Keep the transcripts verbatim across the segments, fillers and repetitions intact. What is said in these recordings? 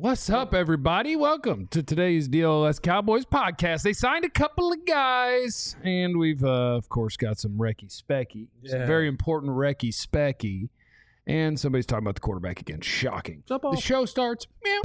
What's up, everybody? Welcome to today's D L S Cowboys podcast. They signed a couple of guys, and we've, uh, of course, got some Recky Specky, yeah. some very important Recky Specky, and somebody's talking about the quarterback again. Shocking. The show starts. Meow.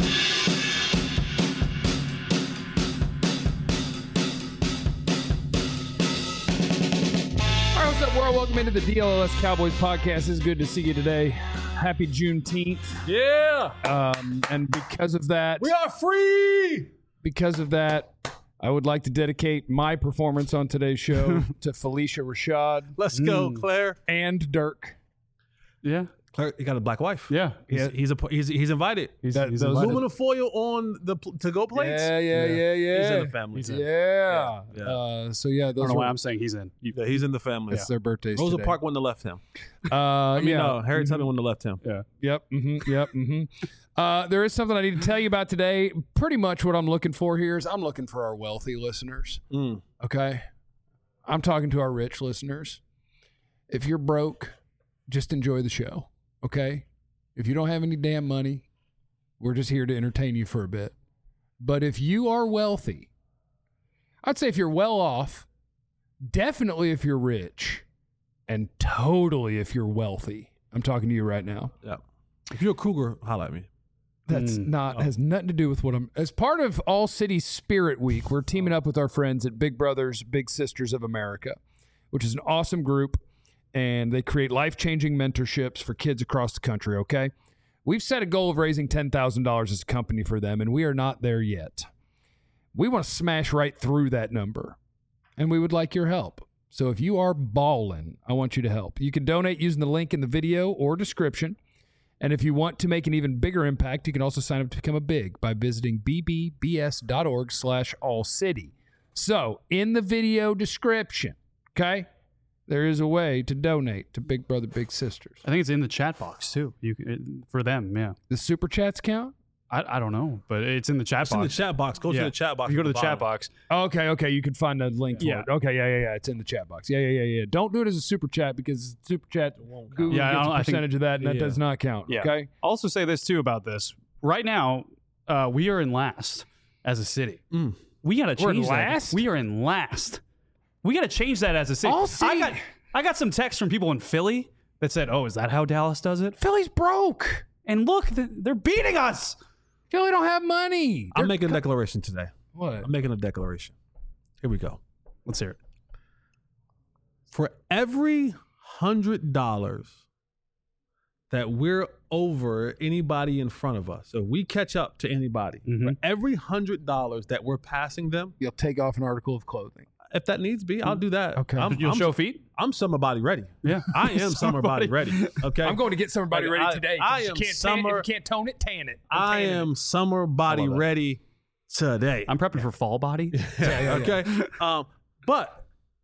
All right, what's up, world? Welcome into the D L S Cowboys podcast. It's good to see you today. Happy Juneteenth. Yeah. Um, and because of that, we are free. Because of that, I would like to dedicate my performance on today's show to Felicia Rashad. Let's go, mm. Claire. And Dirk. Yeah. Claire, you got a black wife. Yeah. He's, yeah. he's, a, he's, he's invited. He's, that, he's invited. Aluminum foil on the to-go plates. Yeah, yeah, yeah, yeah. yeah. He's in the family. He's in. Yeah. yeah. Uh, so, yeah. Those I don't know were, why I'm saying he's in. Yeah, he's in the family. It's yeah. their birthdays Rosa today. Park wouldn't have left him. Uh, I mean, yeah. no, Harry mm-hmm. Tubman wouldn't have left him. Yeah. Yep. Mm-hmm, yep. Mm-hmm. Uh, there is something I need to tell you about today. Pretty much what I'm looking for here is I'm looking for our wealthy listeners. Mm. Okay? I'm talking to our rich listeners. If you're broke, just enjoy the show. Okay? If you don't have any damn money, we're just here to entertain you for a bit. But if you are wealthy, I'd say if you're well off, definitely if you're rich, and totally if you're wealthy. I'm talking to you right now. Yeah. If you're a cougar, holla at me. That's mm. not, oh. has nothing to do with what I'm, as part of All City Spirit Week, we're teaming up with our friends at Big Brothers, Big Sisters of America, which is an awesome group. And they create life-changing mentorships for kids across the country, okay? We've set a goal of raising ten thousand dollars as a company for them, and we are not there yet. We want to smash right through that number, and we would like your help. So if you are ballin', I want you to help. You can donate using the link in the video or description. And if you want to make an even bigger impact, you can also sign up to become a big by visiting bbbs.org slash allcity. So in the video description, okay? There is a way to donate to Big Brother, Big Sisters. I think it's in the chat box, too, You it, for them, yeah. The super chats count? I, I don't know, but it's in the chat it's box. It's in the chat box. Go yeah. to the chat box. You go to the, the chat box. Okay, okay. You can find a link yeah. for it. Okay, yeah, yeah, yeah. It's in the chat box. Yeah, yeah, yeah, yeah. Don't do it as a super chat because super chat, Google yeah, gets a percentage think, of that, and that yeah. does not count. Yeah. Okay? I'll also say this, too, about this. Right now, uh, we are in last as a city. Mm. We got to change We're in that. last? We are in last. We got to change that as a city. All city. I got... I got some texts from people in Philly that said, oh, is that how Dallas does it? Philly's broke. And look, they're beating us. Philly don't have money. I'm They're making co- a declaration today. What? I'm making a declaration. Here we go. Let's hear it. For every one hundred dollars that we're over anybody in front of us, so we catch up to anybody, mm-hmm. for every one hundred dollars that we're passing them, you'll take off an article of clothing. If that needs be, I'll do that. Okay. I'm, You'll I'm, show feet? I'm summer body ready. Yeah. I am summer body ready. Okay. I'm going to get summer body like, ready I, today. I am am you can't summer. Tan it, you can't tone it, tan it. I'm I am it. summer body ready today. I'm prepping yeah. for fall body. yeah, yeah, okay. Yeah. Um, but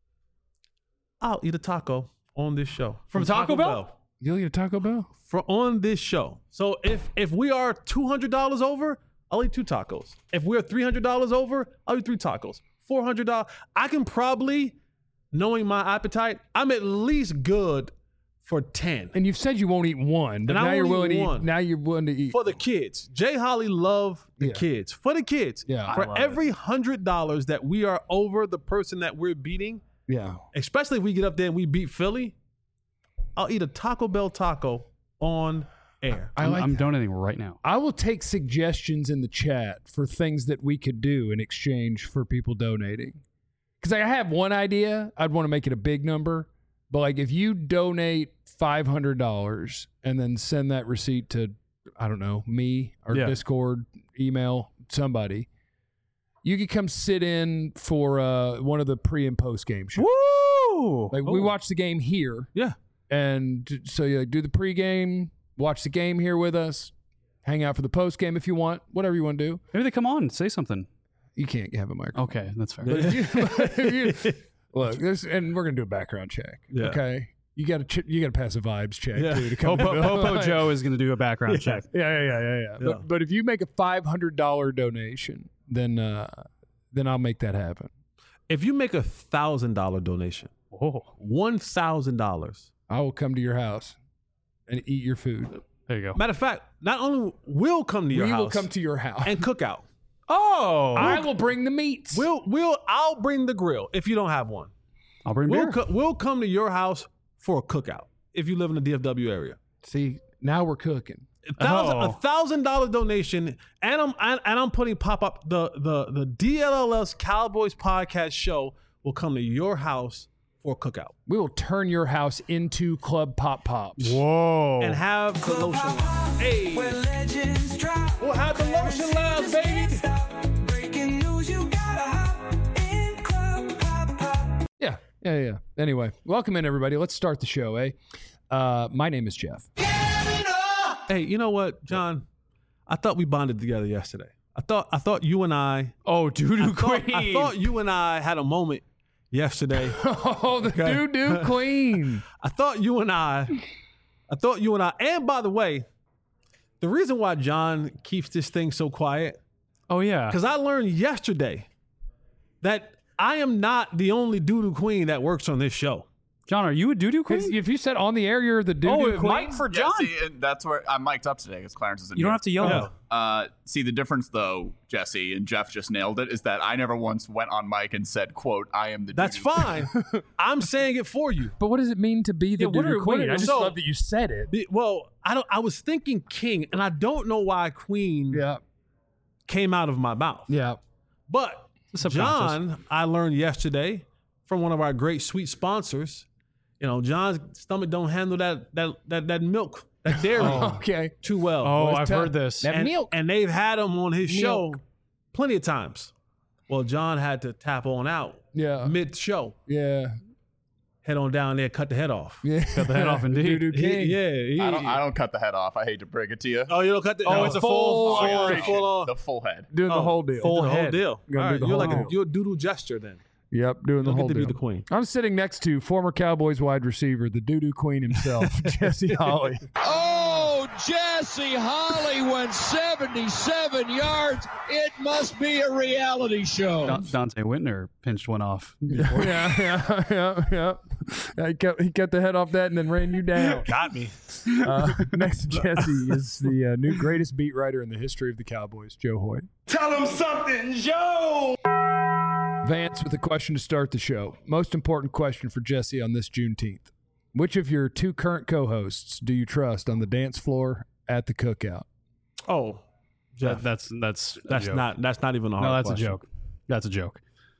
I'll eat a taco on this show. From, From Taco, Taco Bell? Bell? You'll eat a Taco Bell? For on this show. So if if we are two hundred dollars over, I'll eat two tacos. If we're three hundred dollars over, I'll eat three tacos. four hundred dollars. I can probably, knowing my appetite, I'm at least good for ten. And you've said you won't eat one, but and now you're willing to one. eat. Now you're willing to eat for the kids. Jay Holly love the yeah. kids. For the kids. Yeah. For every one hundred dollars that we are over the person that we're beating, yeah. especially if we get up there and we beat Philly, I'll eat a Taco Bell taco on air. I like I'm donating right now. I will take suggestions in the chat for things that we could do in exchange for people donating. Because I have one idea. I'd want to make it a big number. But like if you donate five hundred dollars and then send that receipt to, I don't know, me or yeah. Discord, email, somebody, you could come sit in for uh, one of the pre and post game shows. Woo! Like oh. we watch the game here. Yeah. And so you like, do the pregame, watch the game here with us, hang out for the post game if you want, whatever you want to do. Maybe they come on and say something. You can't have a microphone. Okay, that's fair. But if you, if you, look, this, and we're gonna do a background check. Yeah. Okay, you got to ch- you got to pass a vibes check yeah. too to come. Popo, Popo Joe is gonna do a background yeah. check. Yeah, yeah, yeah, yeah. yeah. yeah. But, but if you make a five hundred dollar donation, then uh, then I'll make that happen. If you make a thousand dollar donation, oh, one thousand dollars. I will come to your house and eat your food. There you go. Matter of fact, not only will come to your we house will come to your house. and cook out. Oh, I will bring the meats. We'll we'll I'll bring the grill if you don't have one. I'll bring We'll beer. co- we'll come to your house for a cookout if you live in the D F W area. See, now we're cooking. A thousand, Oh. a thousand dollar donation, and I'm and, and I'm putting pop up the the the D L L S Cowboys podcast show will come to your house for a cookout We will turn your house into Club Pop Pops. Whoa. and have the lotion lounge. Hey, we'll have the lotion lounge, baby. Yeah, yeah, yeah. Anyway, welcome in, everybody. Let's start the show, eh? Uh, my name is Jeff. Hey, you know what, John? I thought we bonded together yesterday. I thought I thought you and I. oh, doo I doo thought, queen. I thought you and I had a moment yesterday. Oh, the doo-doo queen. I thought you and I, I thought you and I, and by the way, the reason why John keeps this thing so quiet, oh yeah. because I learned yesterday that I am not the only doo-doo queen that works on this show. John, are you a doo doo queen? If you said on the air you're the doo-doo oh, queen. Mike for Yeah, John. see, and that's where I'm mic'd up today because Clarence isn't you don't here. have to yell. Yeah. Uh, see, the difference, though, Jesse and Jeff just nailed it, is that I never once went on mic and said, quote, I am the That's doo-doo fine. I'm saying it for you. But what does it mean to be the Yeah, what doo-doo are- what queen? are- I just so- love that you said it. The- Well, I don't. I was thinking king, and I don't know why queen Yeah, came out of my mouth. yeah. But Subconscious. John, I learned yesterday from one of our great sweet sponsors. You know, John's stomach don't handle that that that that milk, that dairy Okay. too well. Oh, Boys, I've tell- heard this. That and, milk. and they've had him on his show Milk. plenty of times. Well, John had to tap on out Yeah, mid show, yeah, head on down there, cut the head off. yeah. Cut the head off indeed. Doo-doo He- king. yeah, he- I don't, I don't cut the head off. I hate to break it to you. Oh, you don't cut the. Oh, no, it's a full- Oh, full, I full, appreciate full on. the full head. Doing the Oh, whole deal. Full the whole head. deal. Gonna All do right, the you're whole like a deal. you're a doodle gesture then. Yep, doing the Don't whole get to be deal. the queen. I'm sitting next to former Cowboys wide receiver, the doo-doo queen himself, Jesse Holly. Oh, Jesse Holly went seventy-seven yards. It must be a reality show. Don- Dante Whitner pinched one off. yeah, yeah, yeah, yeah. Yeah, He cut, he cut the head off that and then ran you down. Got me. Uh, next to Jesse is the uh, new greatest beat writer in the history of the Cowboys, Joe Hoyt. Tell him something, Joe! Vance with a question to start the show. Most important question for Jesse on this Juneteenth. Which of your two current co-hosts do you trust on the dance floor at the cookout? Oh, Jeff, That, that's that's a that's joke. not that's not even a hard No, that's question. a joke. That's a joke.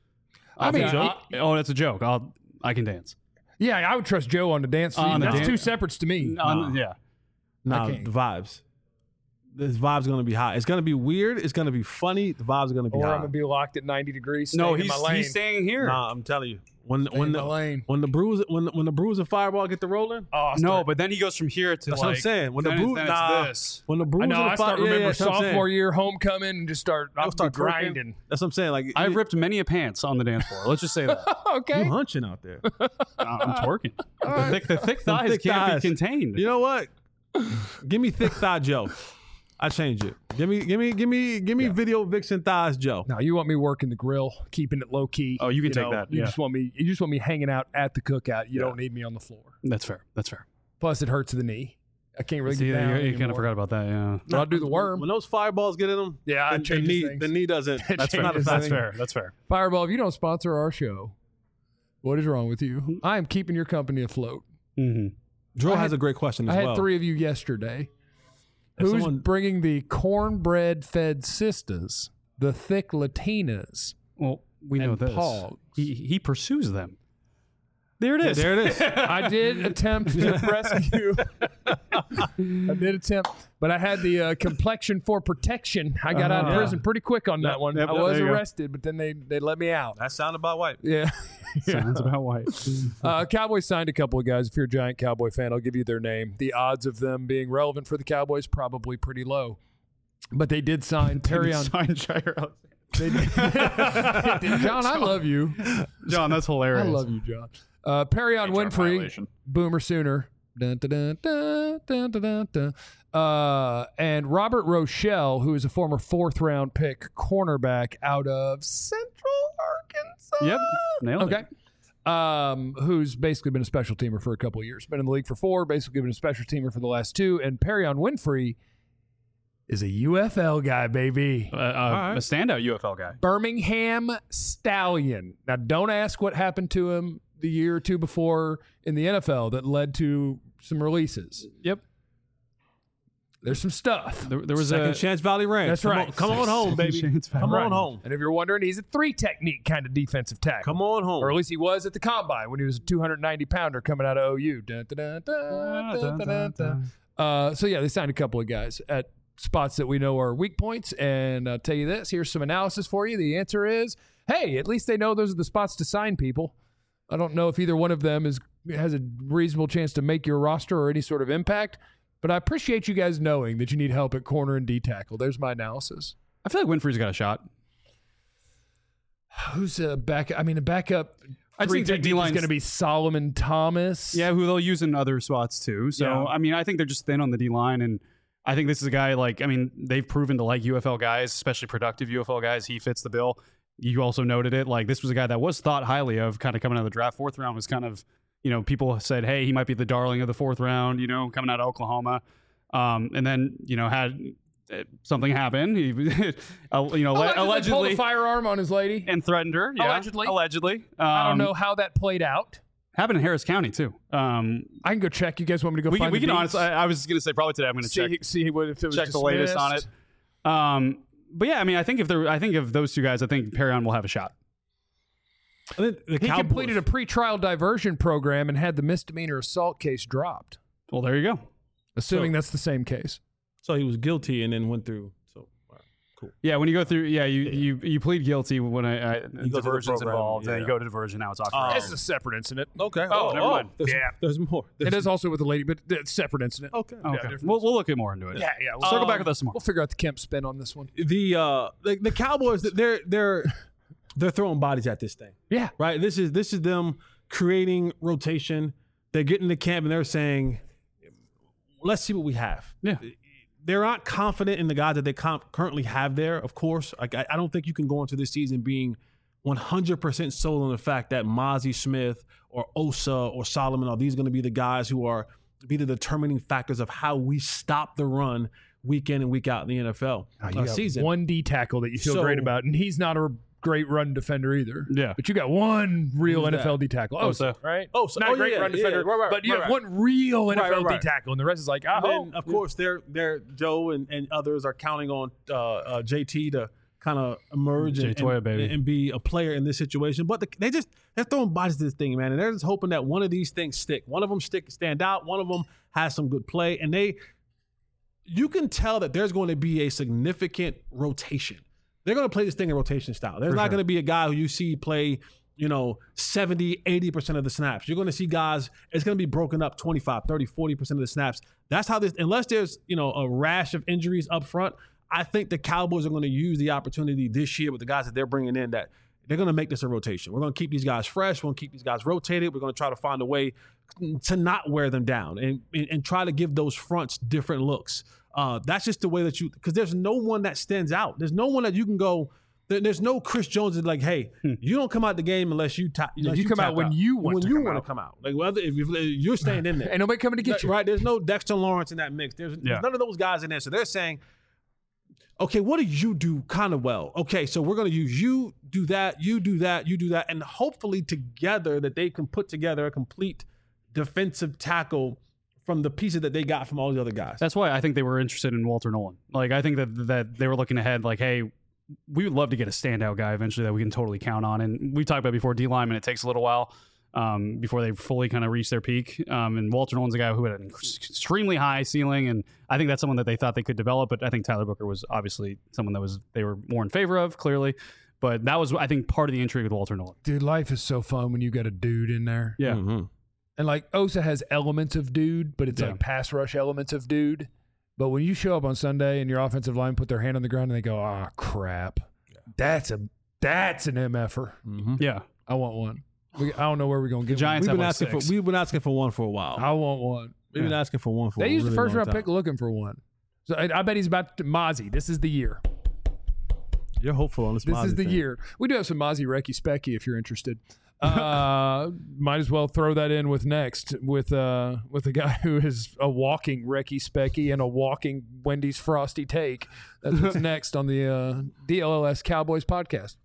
I mean, That's a I- joke? oh, that's a joke. I'll I can dance. Yeah, I would trust Joe on the dance floor. On the That's dan- two separates to me. Um, yeah. Nah, can't. the vibes. This vibe's gonna be high. It's gonna be weird. It's gonna be funny. The vibes are gonna be Or I'm high. gonna be locked at ninety degrees. No, staying in he's my lane. he's staying here. Nah, I'm telling you. When Staying when in the my lane. when the bruise when when the bruise and fireball get to rolling. Oh, I'll no, start- but then he goes from here to That's like. what I'm saying. When the then it's- bruise, then nah, it's this. when the bruise I know. and the I start fire, yeah, remember yeah, that's what I'm saying. sophomore year homecoming and just start. I'll I'll start start twerking. grinding. That's what I'm saying. Like I've you, ripped many a pants on the dance floor. Let's just say that. Okay. you hunching out there. I'm twerking. The thick, the thick thighs thick can't thighs. be contained. You know what? Give me thick thigh Joe. I change it. Give me, give me, give me, give me video vixen thighs Joe. Now you want me working the grill, keeping it low key. Oh, you can take know, that, You yeah. just want me. You just want me hanging out at the cookout. You Yeah. don't need me on the floor. That's fair. That's fair. Plus, it hurts the knee. I can't really See, get down. you, you kind anymore. of forgot about that. Yeah. But I'll do the worm. When those fireballs get in them, Yeah, the, it the changes knee, things. the knee doesn't. It That's not a changes fact. That's fair. That's fair. Fireball, if you don't sponsor our show, what is wrong with Mm-hmm. you? I am keeping your company afloat. hmm Drew I has had- a great question as I had well. three of you yesterday. If Who's someone- bringing the cornbread-fed sisters, the thick Latinas? Well, we know And this. Pogs. He he pursues them. There it is. There it is. I did attempt to rescue. I did attempt, but I had the uh, complexion for protection. I got out of Uh-huh. prison pretty quick on that Yep, one. yep, I yep, was there you go. arrested, but then they, they let me out. That sound about white. Yeah. Sounds about white. Uh, Cowboys signed a couple of guys. If you're a giant Cowboy fan, I'll give you their name. The odds of them being relevant for the Cowboys probably pretty low. But they did sign Terry on. Sign Jair Alexander. They did. John, I love you. John, that's I hilarious. love you, John. Uh, Perry on H R Winfrey, violation. Boomer Sooner. Dun, dun, dun, dun, dun, dun, dun, dun. Uh, and Robert Rochelle, who is a former fourth round pick cornerback out of Central Arkansas. Yep. Nailed Okay. it. um, who's basically been a special teamer for a couple of years. Been in the league for four, basically been a special teamer for the last two. And Perion Winfrey is a U F L guy, baby. Uh, uh, right. A standout U F L guy. Birmingham Stallion. Now, don't ask what happened to him the year or two before in the N F L that led to some releases. Yep. There's some stuff. There, there was Second a Chance Valley Ranch. That's come right. On, come on home, baby. Chance Valley Come Right. on home. And if you're wondering, he's a three technique kind of defensive tackle. Come on home. Or at least he was at the combine when he was a two hundred ninety pounder coming out of O U. Dun, dun, dun, dun, dun, dun, dun. Uh, so, yeah, they signed a couple of guys at spots that we know are weak points. And I'll tell you this, here's some analysis for you. The answer is, hey, at least they know those are the spots to sign people. I don't know if either one of them is has a reasonable chance to make your roster or any sort of impact. But I appreciate you guys knowing that you need help at corner and D tackle. There's my analysis. I feel like Winfrey's got a shot. Who's a back? I mean, a backup I'd three say technique is D-line's- going to be Solomon Thomas. Yeah, who they'll use in other spots too. So, Yeah. I mean, I think they're just thin on the D line. And I think this is a guy like, I mean, they've proven to like U F L guys, especially productive U F L guys. He fits the bill. You also noted it. Like, this was a guy that was thought highly of kind of coming out of the draft. Fourth round was kind of, you know, people said, hey, he might be the darling of the fourth round, you know, coming out of Oklahoma. Um, and then, you know, had uh, something happen. He, uh, you know, allegedly, allegedly, pulled a firearm on his lady. and threatened her. Yeah, Allegedly. allegedly. Um, I don't know how that played out. Happened in Harris County too. Um, I can go check. You guys want me to go we find can, we the can deeds? honestly. I, I was going to say probably today. I'm going to see, check see what if it was check the latest on it. dismissed. Um, but yeah, I mean, I think if there, I think if those two guys, I think Perion will have a shot. I think the He Cowboys, completed a pretrial diversion program and had the misdemeanor assault case dropped. Well, there you go. Assuming So- that's the same case. So he was guilty and then went through. So all right, cool. Yeah, when you go through, yeah, you you, you plead guilty when I, I go through the diversion's program, involved, then yeah. you go to diversion. Now it's off. Oh. your This hands. is a separate incident. Okay. Oh, never mind. There's, Yeah. There's more. There's It is also with the lady, but it's a separate incident. Okay. okay. different. we'll we'll look at more into it. Yeah, yeah. We'll, Circle back with us some more. we'll figure out the Kemp spin on this one. The uh the, the Cowboys, they're they're they're throwing bodies at this thing. Yeah. Right. This is this is them creating rotation. They're getting to camp and they're saying, let's see what we have. Yeah. They're not confident in the guys that they com- currently have there, of course. Like, I, I don't think you can go into this season being one hundred percent sold on the fact that Mozzie Smith or Osa or Solomon are these going to be the guys who are be the determining factors of how we stop the run week in and week out in the N F L Oh, you uh, got season. one D tackle that you feel So- great about, and he's not a great run defender either. Yeah. But you got one real Who's N F L that? D tackle. Oh, Oh, so- right? Oh, so- not oh, a great yeah, run yeah, defender, right, right, but you right, have right. one real N F L Right, right, D right. tackle, and the rest is like, And oh, then, of course, they're they're Joe and, and others are counting on uh, uh, J T to kind of emerge Jay and, Toya, and, baby. and be a player in this situation. But the, they just they're throwing bodies to this thing, man, and they're just hoping that one of these things stick. One of them stick stand out. One of them has some good play, and they you can tell that there's going to be a significant rotation. They're going to play this thing in rotation style. There's For not sure. going to be a guy who you see play, you know, seventy, eighty percent of the snaps. You're going to see guys, it's going to be broken up twenty-five, thirty, forty percent of the snaps. That's how this, unless there's, you know, a rash of injuries up front, I think the Cowboys are going to use the opportunity this year with the guys that they're bringing in that they're going to make this a rotation. We're going to keep these guys fresh. We're going to keep these guys rotated. We're going to try to find a way to not wear them down and, and, and try to give those fronts different looks. Uh, that's just the way that you, because there's no one that stands out. There's no one that you can go, there- there's no Chris Jones that's like, hey, you don't come out the game unless you, ta- unless you come tap out when you want when to you come want out. to come out. Like, whether if you, you're staying in there. ain't nobody coming to get you. Right? There's no Dexter Lawrence in that mix. There's, Yeah. there's none of those guys in there. So they're saying, okay, what do you do kind of well? Okay, so we're going to use you, do that, you do that, you do that, and hopefully together that they can put together a complete defensive tackle from the pieces that they got from all the other guys. That's why I think they were interested in Walter Nolan. Like, I think that that they were looking ahead, like, hey, we would love to get a standout guy eventually that we can totally count on. And we talked about before D lineman, it takes a little while um, before they fully kind of reach their peak. Um, and Walter Nolan's a guy who had an extremely high ceiling, and I think that's someone that they thought they could develop. But I think Tyler Booker was obviously someone that was they were more in favor of, clearly. But that was, I think, part of the intrigue with Walter Nolan. Dude, life is so fun when you got a dude in there. Yeah. Mhm. And like Osa has elements of dude, but it's Yeah. like pass rush elements of dude. But when you show up on Sunday and your offensive line put their hand on the ground and they go, ah, crap. That's a that's an M F-er. Mhm. Yeah. I want one. We, I don't know where we're going to get Giants We've have been like asking six. for we've been asking for one for a while. one. I want one. We've been asking for one for They a used the really first long round time. pick looking for one. So I, I bet he's about to Mozzie. This is the year. You're hopeful on this. This Mozzie is the thing. year. We do have some Mozzie Recchi Specky if you're interested. Uh, might as well throw that in with next with uh with a guy who is a walking Recky Specky and a walking Wendy's Frosty Take. That's what's next on the uh, D L L S Cowboys podcast.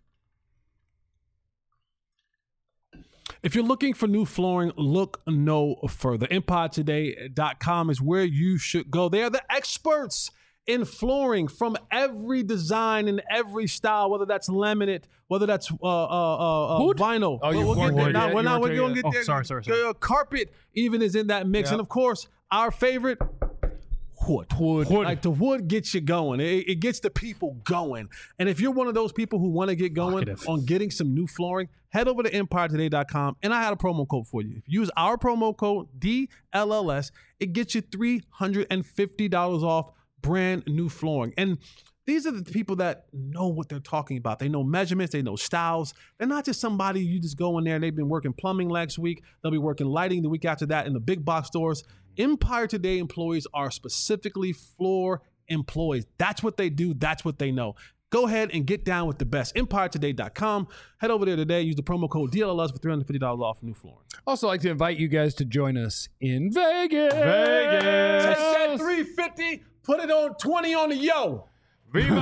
If you're looking for new flooring, look no further. empire today dot com is where you should go. They are the experts in flooring from every design and every style, whether that's laminate, whether that's uh, uh, uh, vinyl. Oh, you we'll weren't get there. there Now, yet. we're You not weren't we're there going to yet. get Oh, there. sorry, sorry, sorry. Uh, carpet even is in that mix. Yep. And, of course, our favorite, wood. Wood. Like the wood gets you going. It, it gets the people going. And if you're one of those people who want to get going Vocative. on getting some new flooring, head over to empire today dot com. And I had a promo code for you. If you use our promo code D L L S, it gets you three hundred fifty dollars off brand new flooring. And these are the people that know what they're talking about. They know measurements. They know styles. They're not just somebody you just go in there and they've been working plumbing last week. They'll be working lighting the week after that in the big box stores. Empire Today employees are specifically floor employees. That's what they do. That's what they know. Go ahead and get down with the best. empire today dot com. Head over there today. Use the promo code D L L S for three hundred fifty dollars off new flooring. Also, like to invite you guys to join us in Vegas. Vegas. Take that three fifty, put it on twenty on the yo. Viva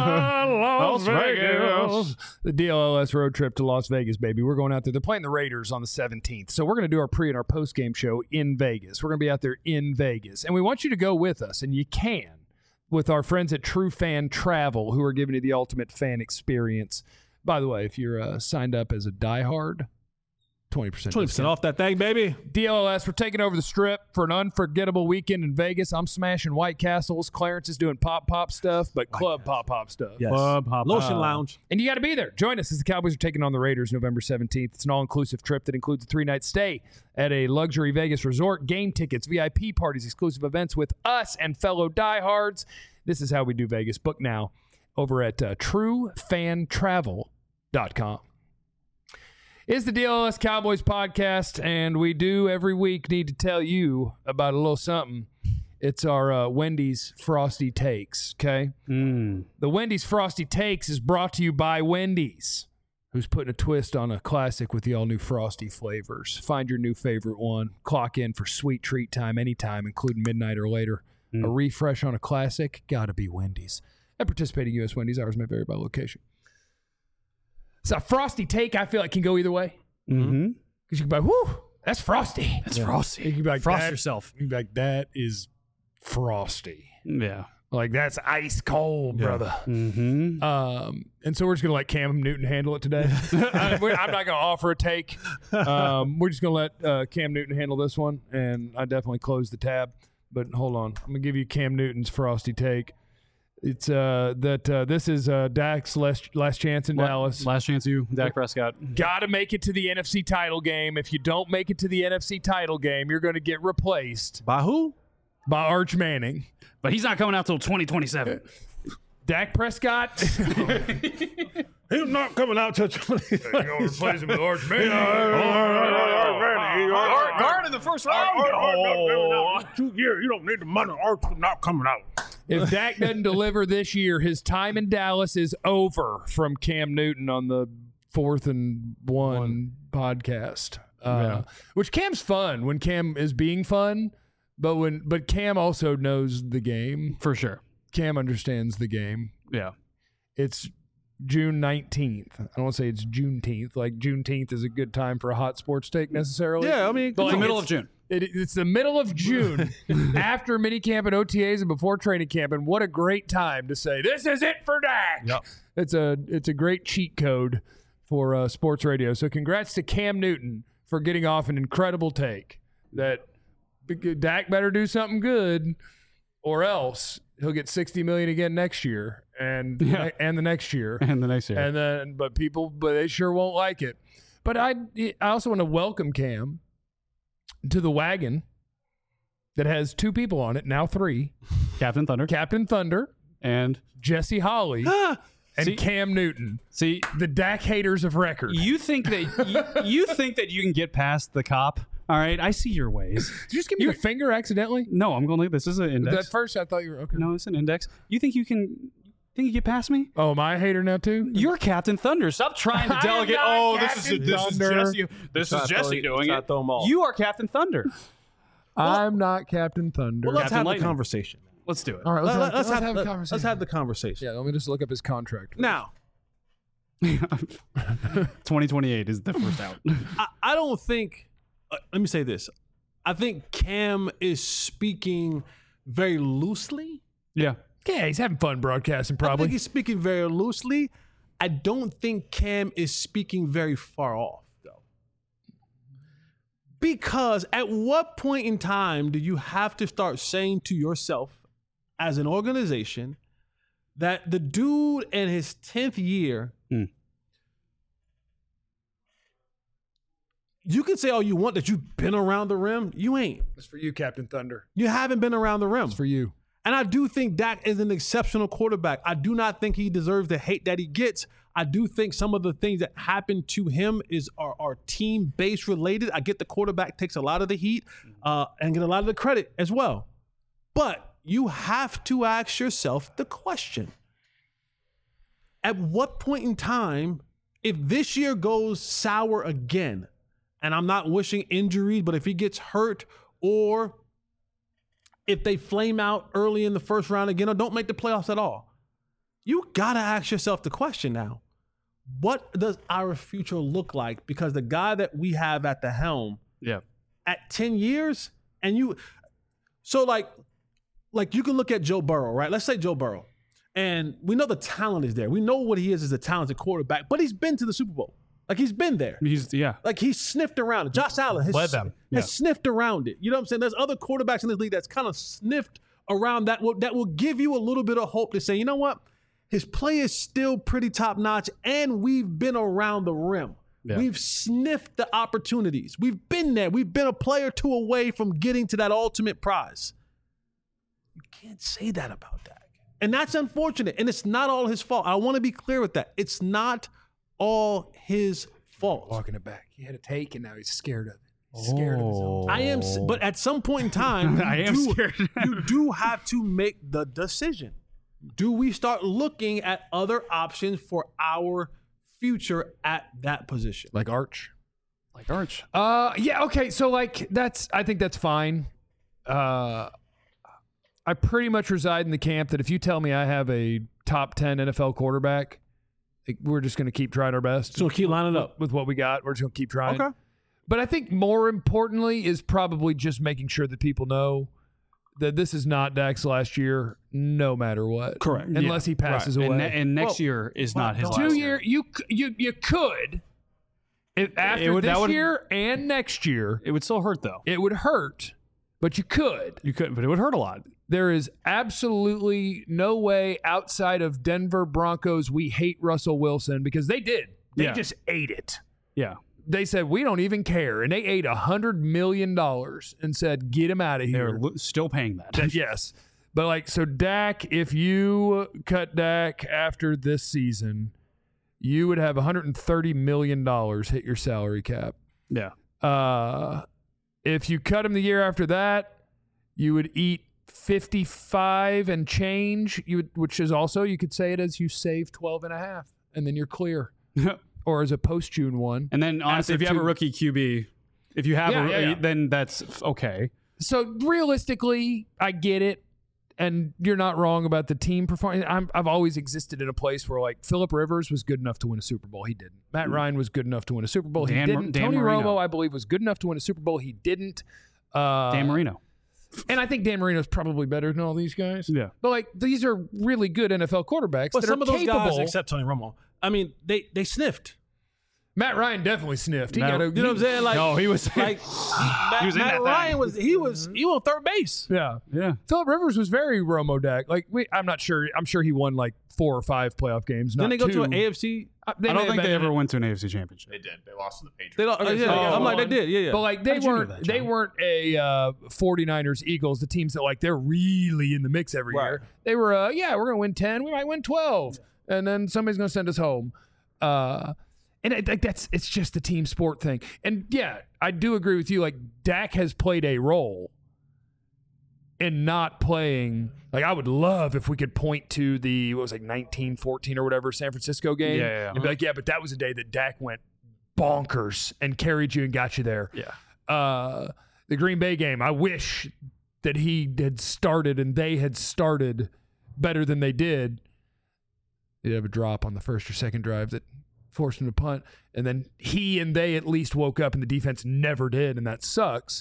Las Las Vegas. The D L L S road trip to Las Vegas, baby. We're going out there. They're playing the Raiders on the seventeenth. So we're going to do our pre and our post game show in Vegas. We're going to be out there in Vegas. And we want you to go with us, and you can, with our friends at True Fan Travel, who are giving you the ultimate fan experience. By the way, if you're uh, signed up as a diehard, twenty percent twenty percent off that thing, baby. D L L S, we're taking over the Strip for an unforgettable weekend in Vegas. I'm smashing White Castles. Clarence is doing pop-pop stuff, but club pop-pop stuff. Yes. Club hop. Lotion Uh, Lounge. And you got to be there. Join us as the Cowboys are taking on the Raiders November seventeenth. It's an all-inclusive trip that includes a three-night stay at a luxury Vegas resort, game tickets, V I P parties, exclusive events with us and fellow diehards. This is how we do Vegas. Book now over at uh, true fan travel dot com. It's the D L L S Cowboys podcast, and we do every week need to tell you about a little something. It's our uh, Wendy's Frosty Takes, okay? Mm. The Wendy's Frosty Takes is brought to you by Wendy's, who's putting a twist on a classic with the all-new Frosty flavors. Find your new favorite one. Clock in for sweet treat time anytime, including midnight or later. Mm. A refresh on a classic, gotta be Wendy's. And participating U S Wendy's, hours may vary by location. So a Frosty Take, I feel like, can go either way. Mm-hmm. Because you can be like, whoo, that's Frosty. That's frosty. You can be like, Frost that- yourself. You can be like, that is Frosty. Yeah. Like, that's ice cold, brother. Mm-hmm. Um, and so we're just going to let Cam Newton handle it today. I, we're- I'm not going to offer a take. Um, we're just going to let uh, Cam Newton handle this one, and I definitely closed the tab. But hold on. I'm going to give you Cam Newton's Frosty Take. It's uh, that uh, this is uh, Dak's last, last chance in Dallas. Last chance you, Dak Prescott. Got to make it to the N F C title game. If you don't make it to the N F C title game, you're going to get replaced By who? by Arch Manning. But he's not coming out till twenty twenty-seven. Dak Prescott. He's not coming out till twenty. You're going to replace him with Arch Manning. Guard in the first round. Two years, you don't need the money. Arch is not coming out. If Dak doesn't deliver this year, his time in Dallas is over from Cam Newton on the fourth and one, one. podcast. Uh, Yeah. Which Cam's fun when Cam is being fun, but when but Cam also knows the game. For sure. Cam understands the game. Yeah. It's June nineteenth. I don't want to say it's Juneteenth. Like Juneteenth is a good time for a hot sports take necessarily. Yeah, I mean, But It's the like, middle it's- of June. It, it's the middle of June, after minicamp and O T As and before training camp, and what a great time to say this is it for Dak. Yep. It's a it's a great cheat code for uh, sports radio. So congrats to Cam Newton for getting off an incredible take. That Dak better do something good, or else he'll get sixty million again next year, and Yeah. and the next year, And the next year. and then but people but they sure won't like it. But I I also want to welcome Cam to the wagon that has two people on it, now three. Captain Thunder. Captain Thunder, and Jesse Holly, and See- Cam Newton, see, the Dak haters of record. you think that you, you think that you can get past the cop. All right, I see your ways. Did you just give me you- the finger accidentally? No, I'm going to this is an index. At first, I thought you were okay. No, it's an index. You think you can Think you get past me? Oh, am I a hater now too? You're Captain Thunder. Stop trying to I am delegate. not Oh, this is Captain this is Thunder. Jesse. This Try is to Jesse throw- doing try to it. throw 'em off. You are Captain Thunder. I'm not Captain Thunder. Well, let's Captain have Lightning. the conversation. Let's do it. All right, let's, Let- have, let's let's have, have a let- conversation. Let's have the conversation. Yeah, let me just look up his contract. first. Now, twenty twenty-eight is the first out. I, I don't think. Uh, let me say this. I think Cam is speaking very loosely. Yeah. yeah, he's having fun broadcasting. I Probably. think he's speaking very loosely. I don't think Cam is speaking very far off, though. Because at what point in time do you have to start saying to yourself, as an organization, that the dude in his tenth year, Hmm. you can say all you want that you've been around the rim. You ain't. It's for you, Captain Thunder. You haven't been around the rim. It's for you. And I do think Dak is an exceptional quarterback. I do not think he deserves the hate that he gets. I do think some of the things that happened to him is are, are team-based related. I get the quarterback takes a lot of the heat uh, and get a lot of the credit as well. But you have to ask yourself the question. At what point in time, if this year goes sour again, and I'm not wishing injuries, but if he gets hurt or if they flame out early in the first round again or don't make the playoffs at all, you got to ask yourself the question now. What does our future look like? Because the guy that we have at the helm Yeah. at ten years, and you, so like, like you can look at Joe Burrow, right? Let's say Joe Burrow, and we know the talent is there. We know what he is as a talented quarterback, but he's been to the Super Bowl. Like he's been there. He's yeah. Like he's sniffed around it. Josh Allen has, Led them. has Yeah. sniffed around it. You know what I'm saying? There's other quarterbacks in this league that's kind of sniffed around that will, that will give you a little bit of hope to say, you know what? His play is still pretty top notch, and we've been around the rim. Yeah. We've sniffed the opportunities. We've been there. We've been a player or two away from getting to that ultimate prize. You can't say that about Dak. And that's unfortunate. And it's not all his fault. I want to be clear with that. It's not all his fault. Walking it back. He had a take, and now he's scared of it. He's scared of his own. I am, s- but at some point in time, you I am do, scared. you do have to make the decision. Do we start looking at other options for our future at that position? Like Arch. Like Arch. Uh, yeah, okay. So like that's I think that's fine. Uh, I pretty much reside in the camp that if you tell me I have a top ten N F L quarterback, like, we're just going to keep trying our best. So keep lining up. with what we got. We're just going to keep trying. Okay. But I think more importantly is probably just making sure that people know that this is not Dak's last year, no matter what. Correct. Unless he passes And, away. ne- and next Well, year is well, not his don't- last Two year. year, you c- you you could. If after It would- that this would- year and next year, It would still hurt though. it would hurt, but you could. You could, but it would hurt a lot. There is absolutely no way outside of Denver Broncos we hate Russell Wilson because they did. They Yeah. just ate it. Yeah. They said, we don't even care. And they ate one hundred million dollars and said, get him out of They're here. lo- still paying that. That- yes. But like, so Dak, if you cut Dak after this season, you would have one hundred thirty million dollars hit your salary cap. Yeah. Uh, if you cut him the year after that, you would eat fifty-five and change, you would, which is also, you could say it as you save twelve and a half, and then you're clear. Or as a post-June one. And then honestly, if After you have a two- rookie Q B, if you have Yeah, a, yeah, yeah. then that's f- okay. So realistically, I get it, and you're not wrong about the team performance. I'm, I've always existed in a place where like Phillip Rivers was good enough to win a Super Bowl. He didn't. Matt Ryan was good enough to win a Super Bowl. He Dan Mar- didn't. Dan Tony Marino. Romo, I believe, was good enough to win a Super Bowl. He didn't. Uh, Dan Marino. And I think Dan Marino's probably better than all these guys. Yeah. But like these are really good N F L quarterbacks But that some are of those capable. guys, except Tony Romo, I mean, they they sniffed. Matt Ryan definitely sniffed. He Matt- got a, You know what I'm saying? Like, No, he was- like Matt, He was in Matt that Ryan thing. was he was he was on third base. Yeah. Yeah. Phillip Rivers was very Romo Dak. Like we, I'm not sure. I'm sure he won like four or five playoff games. Then Not they go two. to an A F C. Uh, I may don't have think been they in ever it. went to an A F C championship. They did. They lost to the Patriots. They don't, Okay, yeah, so- I'm like they did. Yeah, yeah. But like How they did you know weren't that, they John? weren't a uh, 49ers Eagles, the teams that like they're really in the mix every Right. year. They were uh, yeah, we're gonna win ten, we might win twelve, and then somebody's gonna send us home. Uh, and I think that's it's just the team sport thing. And yeah, I do agree with you. Like Dak has played a role, and not playing. Like, I would love if we could point to the, what was it, like nineteen fourteen or whatever San Francisco game. Yeah, yeah, yeah. And be like, yeah, but that was a day that Dak went bonkers and carried you and got you there. Yeah. Uh, the Green Bay game, I wish that he had started and they had started better than they did. They'd have a drop on the first or second drive that forced him to punt. And then he and they at least woke up and the defense never did, and that sucks.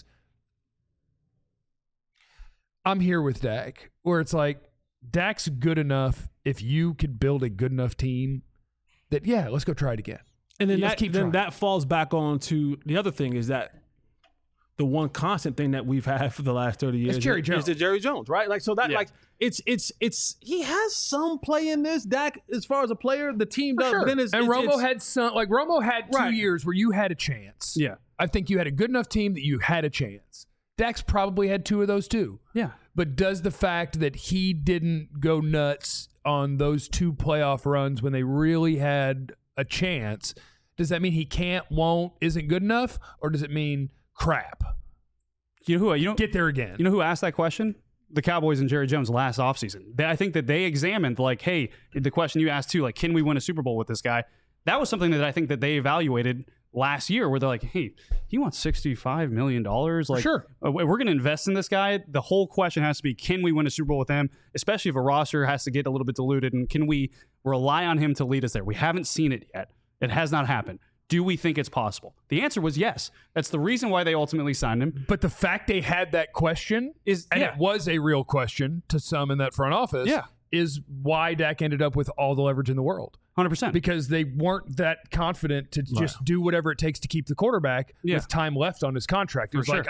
I'm here with Dak, where it's like, Dak's good enough if you could build a good enough team that, yeah, let's go try it again. And then You just that keep then trying. that falls back on to the other thing is that the one constant thing that we've had for the last thirty years It's Jerry is, Jones. is the Jerry Jones, right? Like so that Yeah. like it's it's it's he has some play in this. Dak, as far as a player, the team For does. sure. But then it's, and it's, Romo it's, had some, like Romo had two Right. years where you had a chance. Yeah. I think you had a good enough team that you had a chance. Dak's probably had two of those too. Yeah. But does the fact that he didn't go nuts on those two playoff runs when they really had a chance, does that mean he can't, won't, isn't good enough? Or does it mean crap? You know who? You know, Get there again. You know who asked that question? The Cowboys and Jerry Jones last offseason. They, I think that they examined, like, hey, the question you asked too, like, can we win a Super Bowl with this guy? That was something that I think that they evaluated last year, where they're like, hey, he wants sixty-five million dollars. Like, Sure. uh, we're going to invest in this guy. The whole question has to be, can we win a Super Bowl with him? Especially if a roster has to get a little bit diluted, and can we rely on him to lead us there? We haven't seen it yet. It has not happened. Do we think it's possible? The answer was yes. That's the reason why they ultimately signed him. But the fact they had that question Is and yeah. it was a real question to some in that front office, Yeah. is why Dak ended up with all the leverage in the world. one hundred percent. Because they weren't that confident to just do whatever it takes to keep the quarterback Yeah. with time left on his contract. It was For like, sure.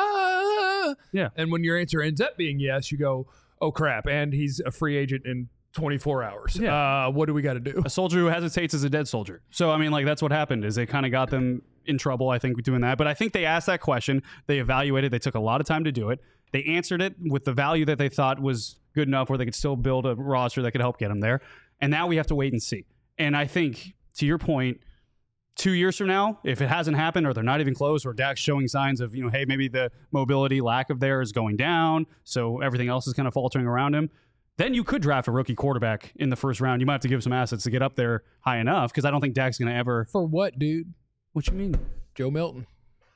ah. Yeah. And when your answer ends up being yes, you go, oh, crap. And he's a free agent in twenty-four hours. Yeah. Uh, what do we got to do? A soldier who hesitates is a dead soldier. So, I mean, like, that's what happened is they kind of got them in trouble, I think, doing that. But I think they asked that question. They evaluated. They took a lot of time to do it. They answered it with the value that they thought was good enough where they could still build a roster that could help get them there. And now we have to wait and see. And I think, to your point, two years from now, if it hasn't happened or they're not even close or Dak's showing signs of, you know, hey, maybe the mobility lack of there is going down, so everything else is kind of faltering around him, then you could draft a rookie quarterback in the first round. You might have to give some assets to get up there high enough because I don't think Dak's going to ever. For what, dude? What you mean? Joe Milton.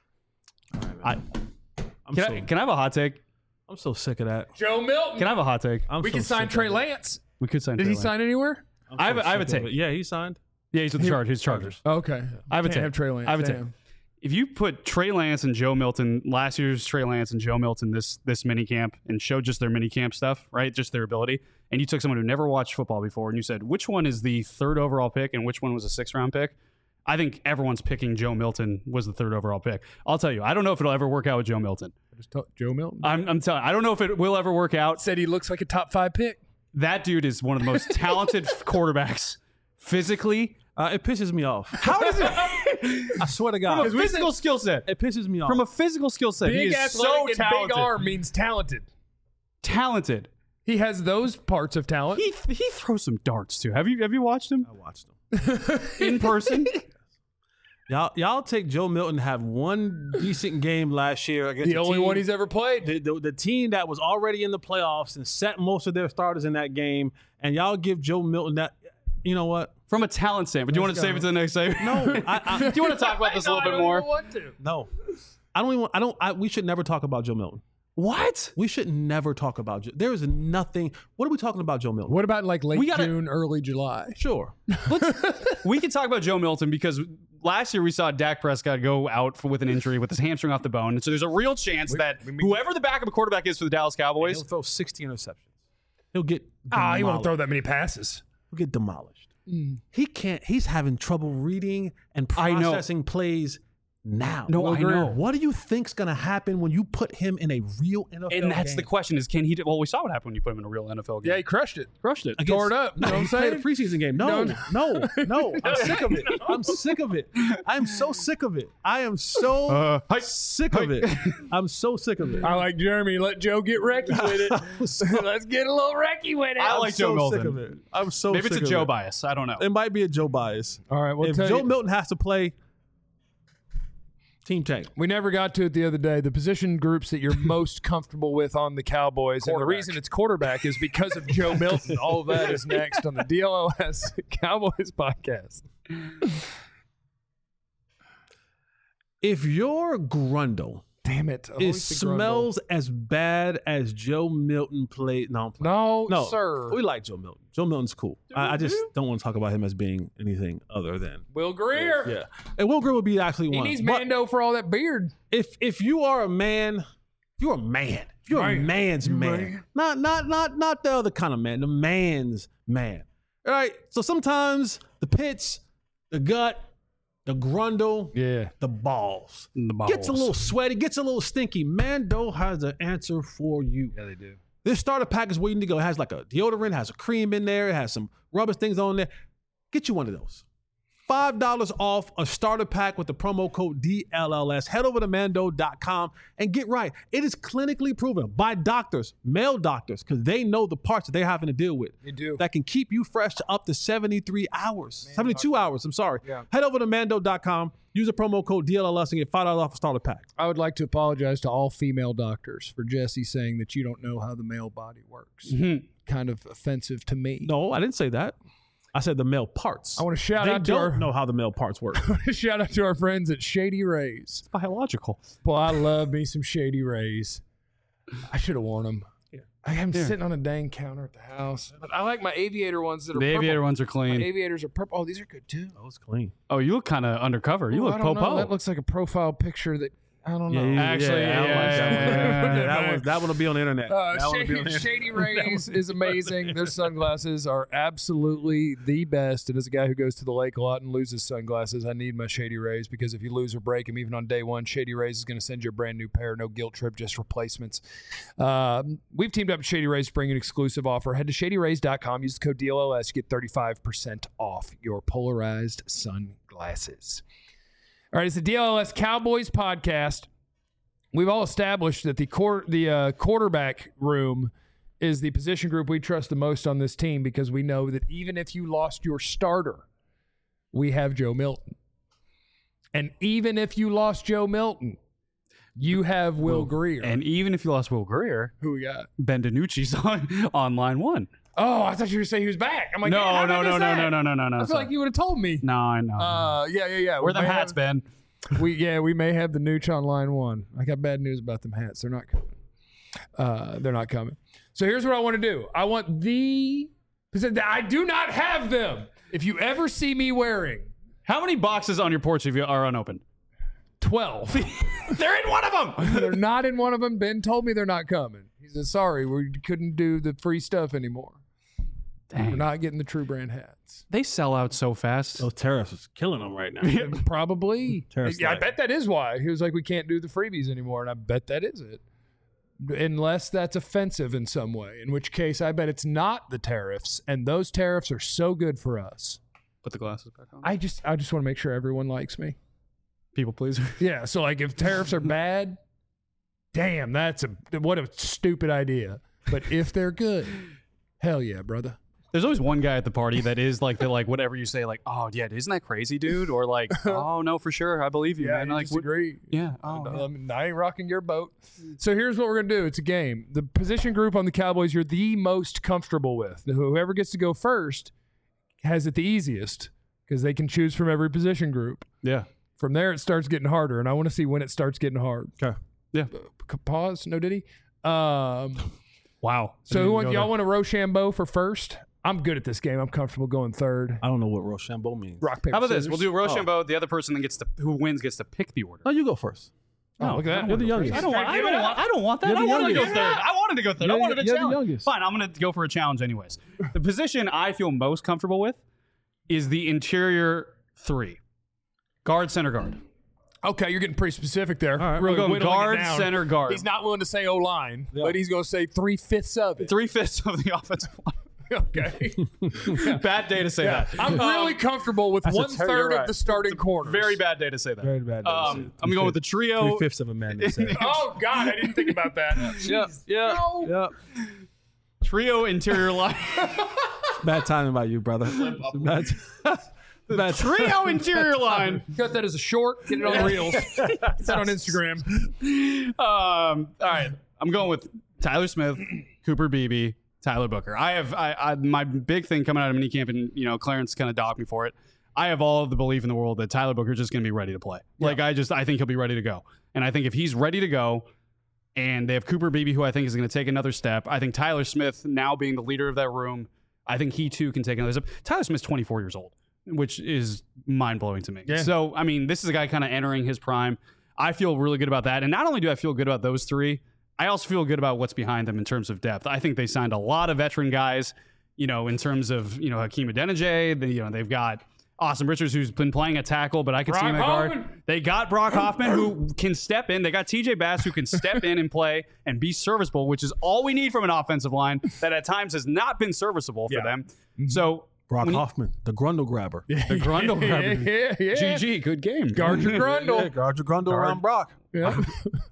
I, I'm can, so, I, can I have a hot take? I'm so sick of that. Joe Milton. Can I have a hot take? I'm we so can sign sick of Trey it. Lance. We could sign. Did Trey he Lance. sign anywhere? I'm I have so a- I have a sick of take. it. Yeah, he signed. Yeah, he's with the Chargers. His Chargers. Okay. I have a Can't take. have Trey Lance. I have a take. Damn. If you put Trey Lance and Joe Milton, last year's Trey Lance and Joe Milton, this this mini camp, and showed just their mini camp stuff, right? Just their ability, and you took someone who never watched football before, and you said which one is the third overall pick and which one was a sixth round pick. I think everyone's picking Joe Milton was the third overall pick. I'll tell you, I don't know if it'll ever work out with Joe Milton. Just talk- Joe Milton. I'm, I'm telling. I don't know if it will ever work out. Said he looks like a top five pick. That dude is one of the most talented quarterbacks physically. Uh, it pisses me off. How does it? I swear to From God, a physical skill set. it pisses me off. From a physical skill set, he Big is athletic so and talented. big arm means talented. Talented. He has those parts of talent. He he throws some darts too. Have you have you watched him I watched him. in person? Y'all, y'all take Joe Milton to have one decent game last year against the a only team, one he's ever played. the, the, the team that was already in the playoffs and set most of their starters in that game, and y'all give Joe Milton that. You know what? From a talent standpoint. Do you want to Let's save go. it to the next segment? No, I, I, Do you want to talk about this a No, little I bit don't more? even want to. no. I don't even. I don't. I, we should never talk about Joe Milton. What? We should never talk about Joe. There is nothing. What are we talking about, Joe Milton? What about like late We gotta- June, early July? Sure. We can talk about Joe Milton because last year we saw Dak Prescott go out for, with an injury with his hamstring off the bone. And so there's a real chance that whoever the backup quarterback is for the Dallas Cowboys, He'll throw sixty interceptions. He'll get. Ah, he won't demolished. throw that many passes. He'll get demolished. He can't. He's having trouble reading and I know. processing plays now. No, I know. What do you think's going to happen when you put him in a real N F L and that's the game? question is can he do, well, we saw what happened when you put him in a real N F L game. Yeah, he crushed it. crushed it. Against- Tore it up. You know No, what I'm he played saying? a preseason game. No, No, no, no. I'm sick of it. I'm sick of it. I'm so sick of it. I am so Uh, hi. sick of it. I'm so sick of it. I like Jeremy. Let Joe get wrecky with it. Let's get a little wrecky with it. I I'm like so Joe Milton. sick of it. I'm so Maybe it's sick a of Joe it. bias. I don't know. It might be a Joe bias. All right, we'll if tell Joe you. Milton has to play Team Tank. We never got to it the other day. The position groups that you're most comfortable with on the Cowboys. And the reason it's quarterback is because of Joe Milton. All of that is next on the D L O S Cowboys podcast. If your Grundle Damn it. it smells as bad as Joe Milton played. No, I'm playing. No, no, sir. We like Joe Milton. Joe Milton's cool. I, I just don't want to talk about him as being anything other than Will Greer. yeah. And Will Greer would be actually He one. needs But Mando for all that beard. if if you are a man, if you're a man, if you're Man. a man's man, man. not not not not the other kind of man, the man's man. All right. So sometimes the pits, the gut, the grundle, Yeah. the balls. The balls. Gets a little sweaty, gets a little stinky. Mando has an answer for you. Yeah, they do. This starter pack is where you need to go. It has like a deodorant, has a cream in there, it has some rubber things on there. Get you one of those. five dollars off a starter pack with the promo code D L L S. Head over to mando dot com and get right. It is clinically proven by doctors, male doctors, because they know the parts that they're having to deal with. They do. That can keep you fresh to up to seventy-three hours. seventy-two hours, I'm sorry. Yeah. Head over to mando dot com, use the promo code D L L S and get five dollars off a starter pack. I would like to apologize to all female doctors for Jesse saying that you don't know how the male body works. Mhm. Kind of offensive to me. No, I didn't say that. I said the male parts. I want to shout they out to don't our know how the male parts work. shout out to our friends at Shady Rays. biological. Boy, I love me some Shady Rays. I should have worn them. Yeah. I am Yeah. sitting on a dang counter at the house, but I like my aviator ones that are The purple. aviator ones are My clean. aviators are purple. Oh, these are good too. That was clean. Oh, you look kind of undercover. You Ooh, look I don't know. po-po. That looks like a profile picture that I don't know. Actually, I don't yeah, like that one. yeah, Yeah, yeah. that one. That one will be on the internet. Uh, that one will be on Shady, the internet. Shady Rays is amazing. Their sunglasses are absolutely the best. And as a guy who goes to the lake a lot and loses sunglasses, I need my Shady Rays because if you lose or break them, even on day one, Shady Rays is going to send you a brand new pair. No guilt trip, just replacements. Um, we've teamed up with Shady Rays to bring an exclusive offer. Head to shady rays dot com. Use the code D L L S. You get thirty-five percent off your polarized sunglasses. All right, it's the D L L S Cowboys podcast. We've all established that the quar- the uh, quarterback room is the position group we trust the most on this team because we know that even if you lost your starter, we have Joe Milton. And even if you lost Joe Milton, you have Will Greer. And even if you lost Will Greer, who we got? Ben DiNucci's on, on line one. Oh, I thought you were saying he was back. I'm like, No, man, how did no, I no, miss no, that? no, no, no, no, no. I feel sorry. like you would have told me. No, I know. Uh, yeah, yeah, yeah. Where We them may hats, have- Ben? We yeah, we may have the nooch on line one. I got bad news about them hats. They're not coming. Uh, they're not coming. So here's what I want to do. I want the I do not have them. If you ever see me wearing How many boxes on your porch have you are unopened? twelve, They're in one of them. they're not in one of them. Ben told me they're not coming. He said, "Sorry, we couldn't do the free stuff anymore. We're Dang. not getting the True Brand hats." They sell out so fast. Those tariffs is killing them right now. Probably. Terrorist Yeah, I light. bet that is why. He was like, we can't do the freebies anymore. And I bet that is it. Unless that's offensive in some way, in which case I bet it's not the tariffs. And those tariffs are so good for us. Put the glasses back on. I just I just want to make sure everyone likes me. People pleaser. Yeah. So like if tariffs are bad, damn, that's a what a stupid idea. But if they're good, hell yeah, brother. There's always one guy at the party that is like the like whatever you say, like, oh yeah, isn't that crazy, dude? Or like, oh no, for sure, I believe you, Yeah, man. you Like, what- disagree. yeah. Oh, No, yeah. I, mean, I ain't rocking your boat. So here's what we're gonna do. It's a game. The position group on the Cowboys you're the most comfortable with. Whoever gets to go first has it the easiest because they can choose from every position group. yeah. From there, it starts getting harder, and I want to see when it starts getting hard. Okay. Yeah. C- Pause. No diddy. Um, Wow. so who Didn't want, go y'all there. want to Rochambeau for first? I'm good at this game. I'm comfortable going third. I don't know what Rochambeau means. Rock paper. How about this? scissors. We'll do Rochambeau. The other person that gets to who wins gets to pick the order. No, you go first. Oh, look at that. You're the youngest. I don't want. I Give don't it up. want. I don't want that. You're I the wanted to go youngest. third. I wanted to go third. I You're- wanted a you're the challenge. youngest. Fine. I'm going to go for a challenge anyways. The position I feel most comfortable with is the interior three, guard, center guard. Okay, you're getting pretty specific there. All right, really I'm going whittling it guard, down. center guard. He's not willing to say O line, but he's going to say three fifths of it. Three fifths of the offensive line. Okay. Bad day to say Yeah, that. I'm really comfortable with a one ter- third you're of right. the starting corners. Very bad day to say that. Very bad. Um, I'm going with the trio. Three fifths of a man. They said. Oh God, I didn't think about that. Yeah, yeah. No. Yep. Trio interior line. Bad timing by you, brother. Bad, That Trio interior line. Cut that as a short. Get it on the reels. Get that on Instagram. Um, all right, I'm going with Tyler Smith, Cooper Beebe, Tyler Booker. I have I, I my big thing coming out of minicamp, and you know Clarence kind of docked me for it. I have all of the belief in the world that Tyler Booker is just going to be ready to play. Like I just I think he'll be ready to go, and I think if he's ready to go, and they have Cooper Beebe, who I think is going to take another step. I think Tyler Smith, now being the leader of that room, I think he too can take another step. Tyler Smith's twenty-four years old, which is mind blowing to me. Yeah. So I mean, this is a guy kind of entering his prime. I feel really good about that, and not only do I feel good about those three, I also feel good about what's behind them in terms of depth. I think they signed a lot of veteran guys, you know, in terms of, you know, Hakeem Adeniji. They, you know, they've got Austin Richards, who's been playing a tackle, but I can see him at guard. They got Brock Hoffman, who can step in. They got T J Bass, who can step in and play and be serviceable, which is all we need from an offensive line that at times has not been serviceable for Yeah. them. So Brock when you- Hoffman, the Grundle grabber. the Grundle grabber. Yeah, yeah. G G, good game. Guard your Grundle. Yeah, guard your Grundle around Brock. Yeah.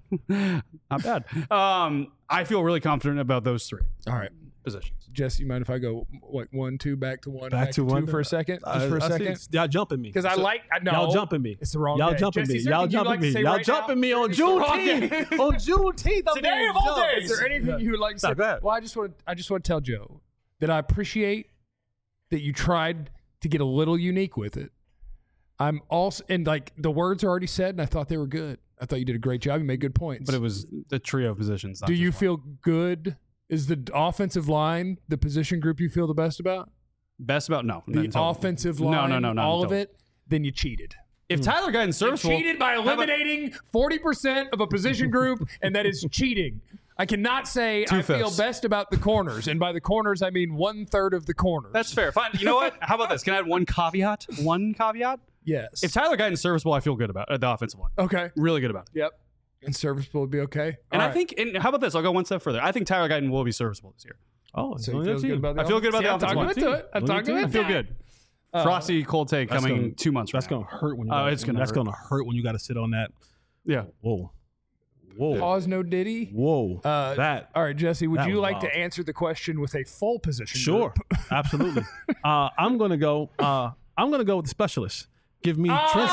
Not bad. Um, I feel really confident about those three All right. positions. Jesse, you mind if I go what one, two, back to one, Back to one. two for a second? Just I- for a I see- second? Y'all jumping me. Because I So- like I know Y'all jumping me. It's the wrong Y'all day. jumping Jesse, me. is there Y'all anything you'd jumping like to me. say Y'all right jumping now? me on It's the wrong Juneteenth. day. On Juneteenth. I'm Today being of all jumped. days. Is there anything you would like to say? No, go ahead. Well, I just want I just want to tell Joe that I appreciate that you tried to get a little unique with it. I'm also and like the words are already said, and I thought they were good. I thought you did a great job. You made good points. But it was the trio of positions. not Do just you one. feel good? Is the offensive line the position group you feel the best about? best about no The not total. offensive No, line, no, no, not all of total. it. Then you cheated. If Tyler Guyton's serviceable, Cheated by eliminating forty percent of a position group, and that is cheating. I cannot say I feel Two-fifths. best about the corners, and by the corners I mean one third of the corners. that's fair. Fine. You know what? How about this? Can I add one caveat? One caveat. yes. If Tyler Guyton's serviceable, I feel good about uh, the offensive line. okay. Really good about it. Yep. And serviceable would be okay. And All I right. think, and how about this? I'll go one step further. I think Tyler Guyton will be serviceable this year. Oh, so you feel good about the I feel good about See, the I'm offensive talking line. into it. I'm Look at talking you. I into feel it. good. Frosty cold take That's coming gonna- two months. That's from now. gonna hurt when you. Oh, gotta- it's gonna That's hurt. gonna hurt when you got to sit on that. Yeah. Whoa, whoa, Pause, no Diddy. whoa. Uh, that All right, Jesse, would that you was like wild. to answer the question with a full position? sure, group? absolutely. Uh, I'm gonna go. Uh, I'm gonna go with the specialist. Give me Trent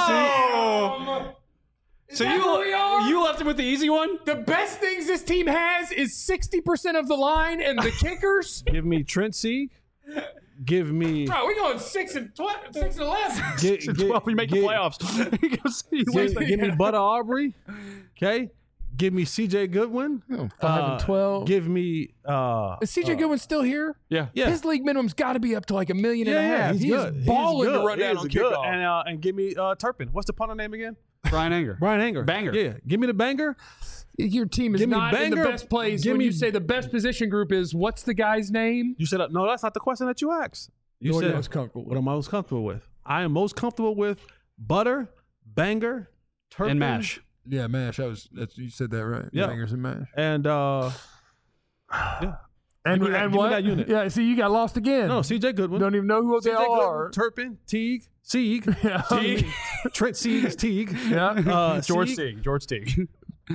Oh! Is So that you where we are? you left him with the easy one. The best things this team has is sixty percent of the line and the kickers. Give me Trent Sieg. Give me. Bro, we going six and twelve, six and eleven. Get, Six and twelve, we make the get- playoffs. He goes- he Give, wins the- give me Butter Aubrey. Okay. Give me C J Goodwin. Five and twelve. Give me. Uh, Is C J Goodwin still here? yeah. yeah. His league minimum's got to be up to like a million and yeah, a yeah, half. he's He good. is He's balling good. to run He down is on good. kickoff. And uh, and give me uh, Turpin. What's the punter name again? Brian Anger. Brian Anger. Banger. Yeah. Give me the banger. Your team is Give me not in the Banger. best place Give when me- you say the best position group is what's the guy's name? You said uh, no. That's not the question that you asked. You What are you said most comfortable what with? am I most comfortable with? I am most comfortable with Butter, Banger, Turpin, And Mash. Yeah, Mash. I was. That's, you said that right. Yeah. Bangers and Mash. and uh, yeah. And, Give me that- and give me what? that unit. Yeah. See, you got lost again. No, C J Goodwin. Don't even know who they C J are. Goodwin, Turpin, Teague, Sieg, Yeah. Teague, Trent Sieg is Teague. Yeah. Uh, George Sieg, Teague. George Teague.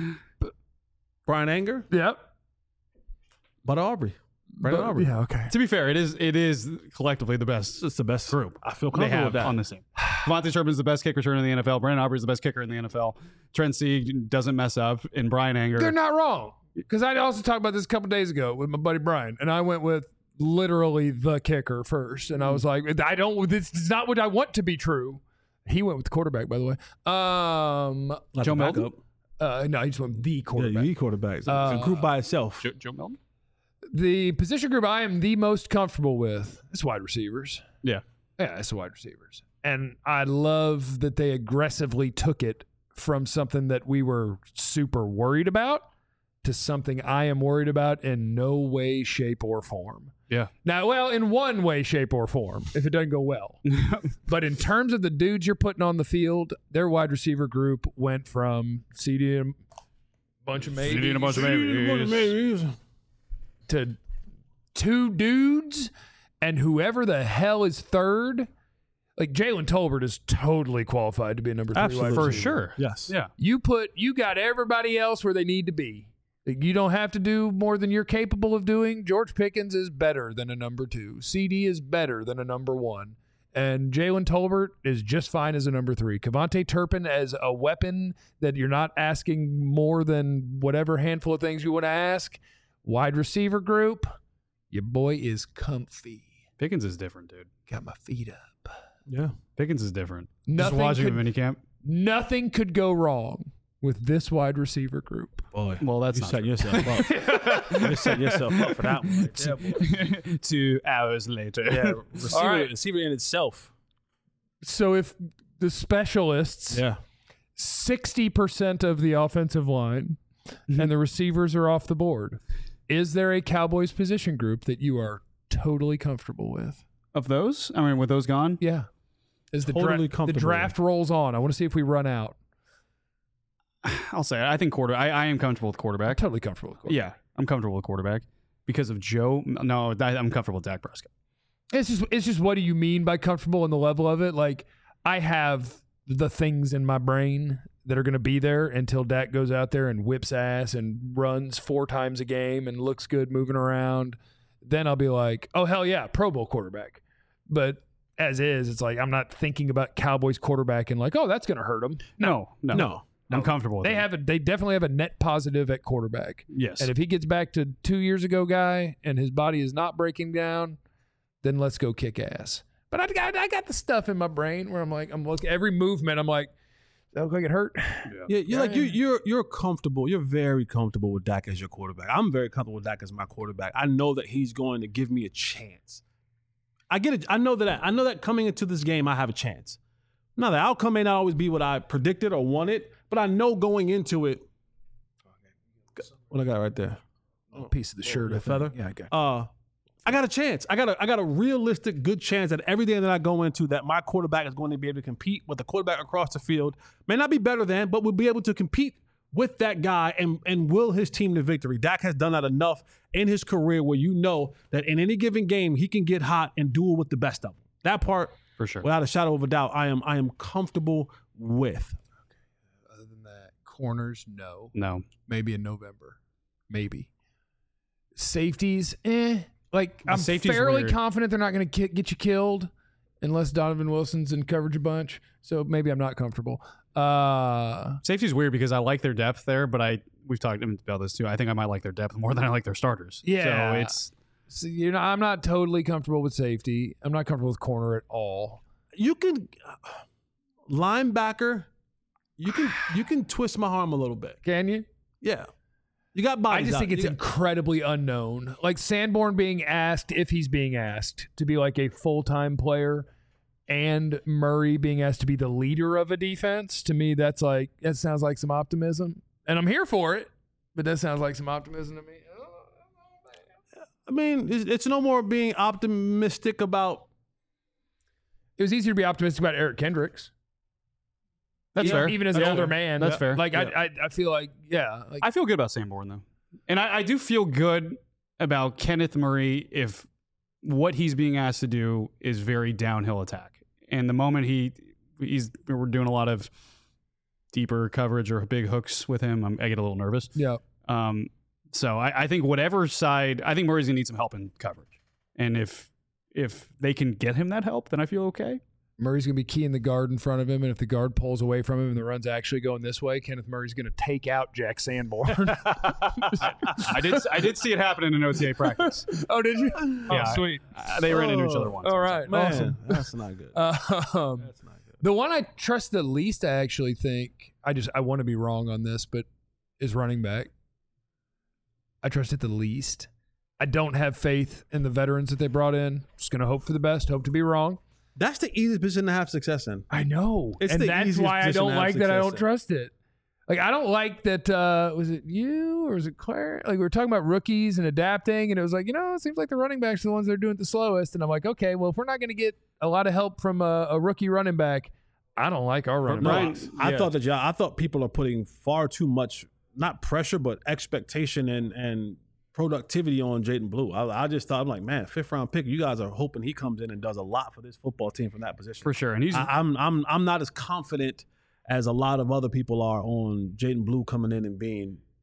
Brian Anger, Yep. Butter Aubrey, Brandon But- Aubrey. Yeah. Okay. To be fair, it is it is collectively the best It's the best group I feel they comfortable have with that. on this team. Devontae Turpin's the best kick returner in the N F L. Brandon Aubrey's the best kicker in the N F L. Trent Sieg doesn't mess up. And Brian Anger. They're not wrong. Because I also talked about this a couple days ago with my buddy Brian, and I went with literally the kicker first, and I was like, I don't. This is not what I want to be true. He went with the quarterback, by the way. Um, Not Joe the Milton? backup. uh, no, he just went with the Yeah, quarterback. you need quarterbacks. Uh, it's a group by itself. Joe, Joe Milton? The position group I am the most comfortable with is wide receivers. Yeah. Yeah, it's the wide receivers. And I love that they aggressively took it from something that we were super worried about to something I am worried about in no way, shape, or form. Yeah. Now, well, in one way, shape, or form, if it doesn't go well. But in terms of the dudes you're putting on the field, their wide receiver group went from C D and a bunch of maybes, C D and a bunch of maybes. to two dudes and whoever the hell is third. Like Jalen Tolbert is totally qualified to be a number three Absolutely. wide For receiver. sure. Yes. Yeah. You put you got everybody else where they need to be. Like, you don't have to do more than you're capable of doing. George Pickens is better than a number two. C D is better than a number one. And Jalen Tolbert is just fine as a number three. Kevontae Turpin as a weapon that you're not asking more than whatever handful of things you want to ask. Wide receiver group, your boy is comfy. Pickens is different, dude. Got my feet up. Yeah. Pickens is different. Nothing Just watching could, him minicamp. Nothing could go wrong with this wide receiver group. Boy, Well, that's you not set true. yourself up. you set yourself up for that one. Right there, boy. Two hours later. Yeah, receiver, All right. receiver in itself. So if the specialists, Yeah. sixty percent of the offensive line and the receivers are off the board, is there a Cowboys position group that you are totally comfortable with? Of those? I mean, with those gone? Yeah. As the, Totally dra- the comfortable draft rolls on, I want to see if we run out. I'll say it. I think quarter. I, I am comfortable with quarterback. Totally comfortable with quarterback. Yeah, I'm comfortable with quarterback because of Joe. No, I, I'm comfortable with Dak Prescott. It's just it's just what do you mean by comfortable and the level of it? Like I have the things in my brain that are going to be there until Dak goes out there and whips ass and runs four times a game and looks good moving around. Then I'll be like, oh hell yeah, Pro Bowl quarterback. But as is, it's like I'm not thinking about Cowboys quarterback and like, oh, that's going to hurt them. No, no, No. I'm comfortable with They him. have a they definitely have a net positive at quarterback. Yes. And if he gets back to two years ago guy and his body is not breaking down, then let's go kick ass. But I got I got the stuff in my brain where I'm like I'm looking every movement I'm like, does that look like it hurt? Yeah, you're like you you're you're comfortable. You're very comfortable with Dak as your quarterback. I'm very comfortable with Dak as my quarterback. I know that he's going to give me a chance. I get it. I know that I know that coming into this game I have a chance. Now the outcome may not always be what I predicted or wanted, but I know going into it. What I got right there? A piece of the shirt, the I think. feather? Yeah, I got. Uh, I got a chance. I got a I got a realistic good chance that every day that I go into that my quarterback is going to be able to compete with the quarterback across the field. May not be better than, but will be able to compete with that guy and and will his team to victory. Dak has done that enough in his career where you know that in any given game he can get hot and duel with the best of them. That part, for sure. without a shadow of a doubt, I am I am comfortable with. Other than that, corners, no. No. Maybe in November. Maybe. Safeties, eh. Like, The I'm safety's fairly weird. confident they're not going to get you killed unless Donovan Wilson's in coverage a bunch. So maybe I'm not comfortable. Uh, Safety's weird because I like their depth there, but I we've talked about this too. I think I might like their depth more than I like their starters. Yeah. So it's so, you know, I'm not totally comfortable with safety. I'm not comfortable with corner at all. You can linebacker. You can you can twist my arm a little bit. Can you? Yeah. You got I bodies. just out. think it's You got- incredibly unknown. Like Sanborn being asked, if he's being asked to be like a full-time player, and Murray being asked to be the leader of a defense, to me, that's like, that sounds like some optimism. And I'm here for it, but that sounds like some optimism to me. I mean, it's, it's no more being optimistic about. It was easier to be optimistic about Eric Kendricks. that's even, fair. Even as That's an older fair. man. That's fair. Like, Yeah. I, I I feel like, yeah. Like, I feel good about Sanborn though, and I, I do feel good about Kenneth Murray if what he's being asked to do is very downhill attack. And the moment he he's we're doing a lot of deeper coverage or big hooks with him, I'm, I get a little nervous. yeah. Um, so I, I think whatever side, I think Murray's gonna need some help in coverage, and if if they can get him that help, then I feel okay. Murray's going to be keying the guard in front of him, and if the guard pulls away from him and the run's actually going this way, Kenneth Murray's going to take out Jack Sanborn. I did I did see it happen in an O T A practice. Oh, did you? Yeah. Oh, sweet. Uh, they ran into each other once. All right, Man, awesome. that's not good. Um, That's not good. the one I trust the least, I actually think, I just I want to be wrong on this, but is running back. I trust it the least. I don't have faith in the veterans that they brought in. Just going to hope for the best, hope to be wrong. That's the easiest position to have success in. I know. It's and the that's easiest why I position don't to have like that I success don't in. trust it. Like, I don't like that, uh, was it you or was it Claire? Like, we were talking about rookies and adapting, and it was like, you know, it seems like the running backs are the ones that are doing it the slowest. And I'm like, okay, well, if we're not going to get a lot of help from a, a rookie running back, I don't like our running No, backs. I yeah. thought that y'all, I thought people are putting far too much, not pressure, but expectation and and productivity on Jaden Blue. I, I just thought, I'm like, man, fifth round pick. You guys are hoping he comes in and does a lot for this football team from that position. For sure. And he's I, I'm I'm I'm not as confident as a lot of other people are on Jaden Blue coming in and being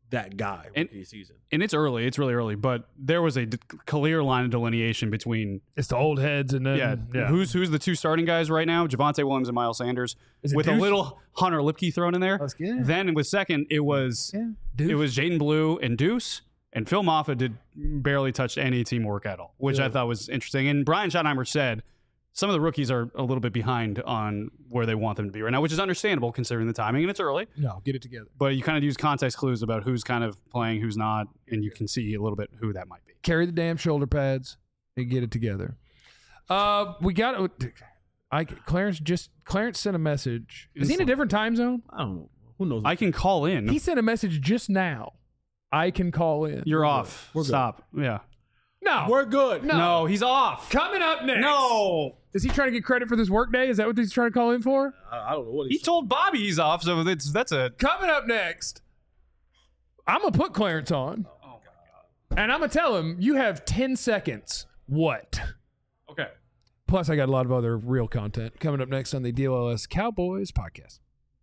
that guy And- rookie season. And it's early. It's really early. But there was a d- clear line of delineation between It's the old heads and then yeah, yeah. who's who's the two starting guys right now? Javonte Williams and Miles Sanders, Is it with Deuce? a little Hunter Lipke thrown in there. That's good. Then with second, it was Yeah. Deuce. it was Jaden Blue and Deuce, and Phil Moffitt did barely touch any teamwork at all, which I thought was interesting. And Brian Schottenheimer said some of the rookies are a little bit behind on where they want them to be right now, which is understandable considering the timing, and it's early. No, get it together. But you kind of use context clues about who's kind of playing, who's not, and you can see a little bit who that might be. Carry the damn shoulder pads and get it together. Uh, we got I Clarence just Clarence sent a message. Is he in a different time zone? I don't know. Who knows? I can call in. He sent a message just now. I can call in. You're off. We're good. Stop. Yeah. no. We're good. No. No, he's off. Coming up next. No. Is he trying to get credit for this work day? Is that what he's trying to call in for? I, I don't know what He told Bobby he's off, so that's that's a Coming up next, I'm going to put Clarence on. Oh And I'm going to tell him, you have ten seconds. What? okay. Plus, I got a lot of other real content coming up next on the D L L S Cowboys podcast.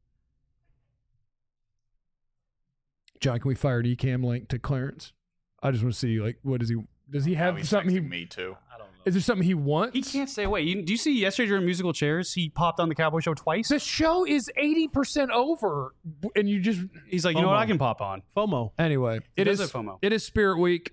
John, can we fire an eCam link to Clarence? I just want to see, like, what does he, does he have Now he's something he, texting me too. is there something he wants? He can't stay away. You, do you see yesterday during musical chairs? He popped on the Cowboy Show twice. The show is eighty percent over, and you just, He's like, you know what? FOMO. I can pop on. FOMO. anyway, it does is, have FOMO. it is Spirit Week.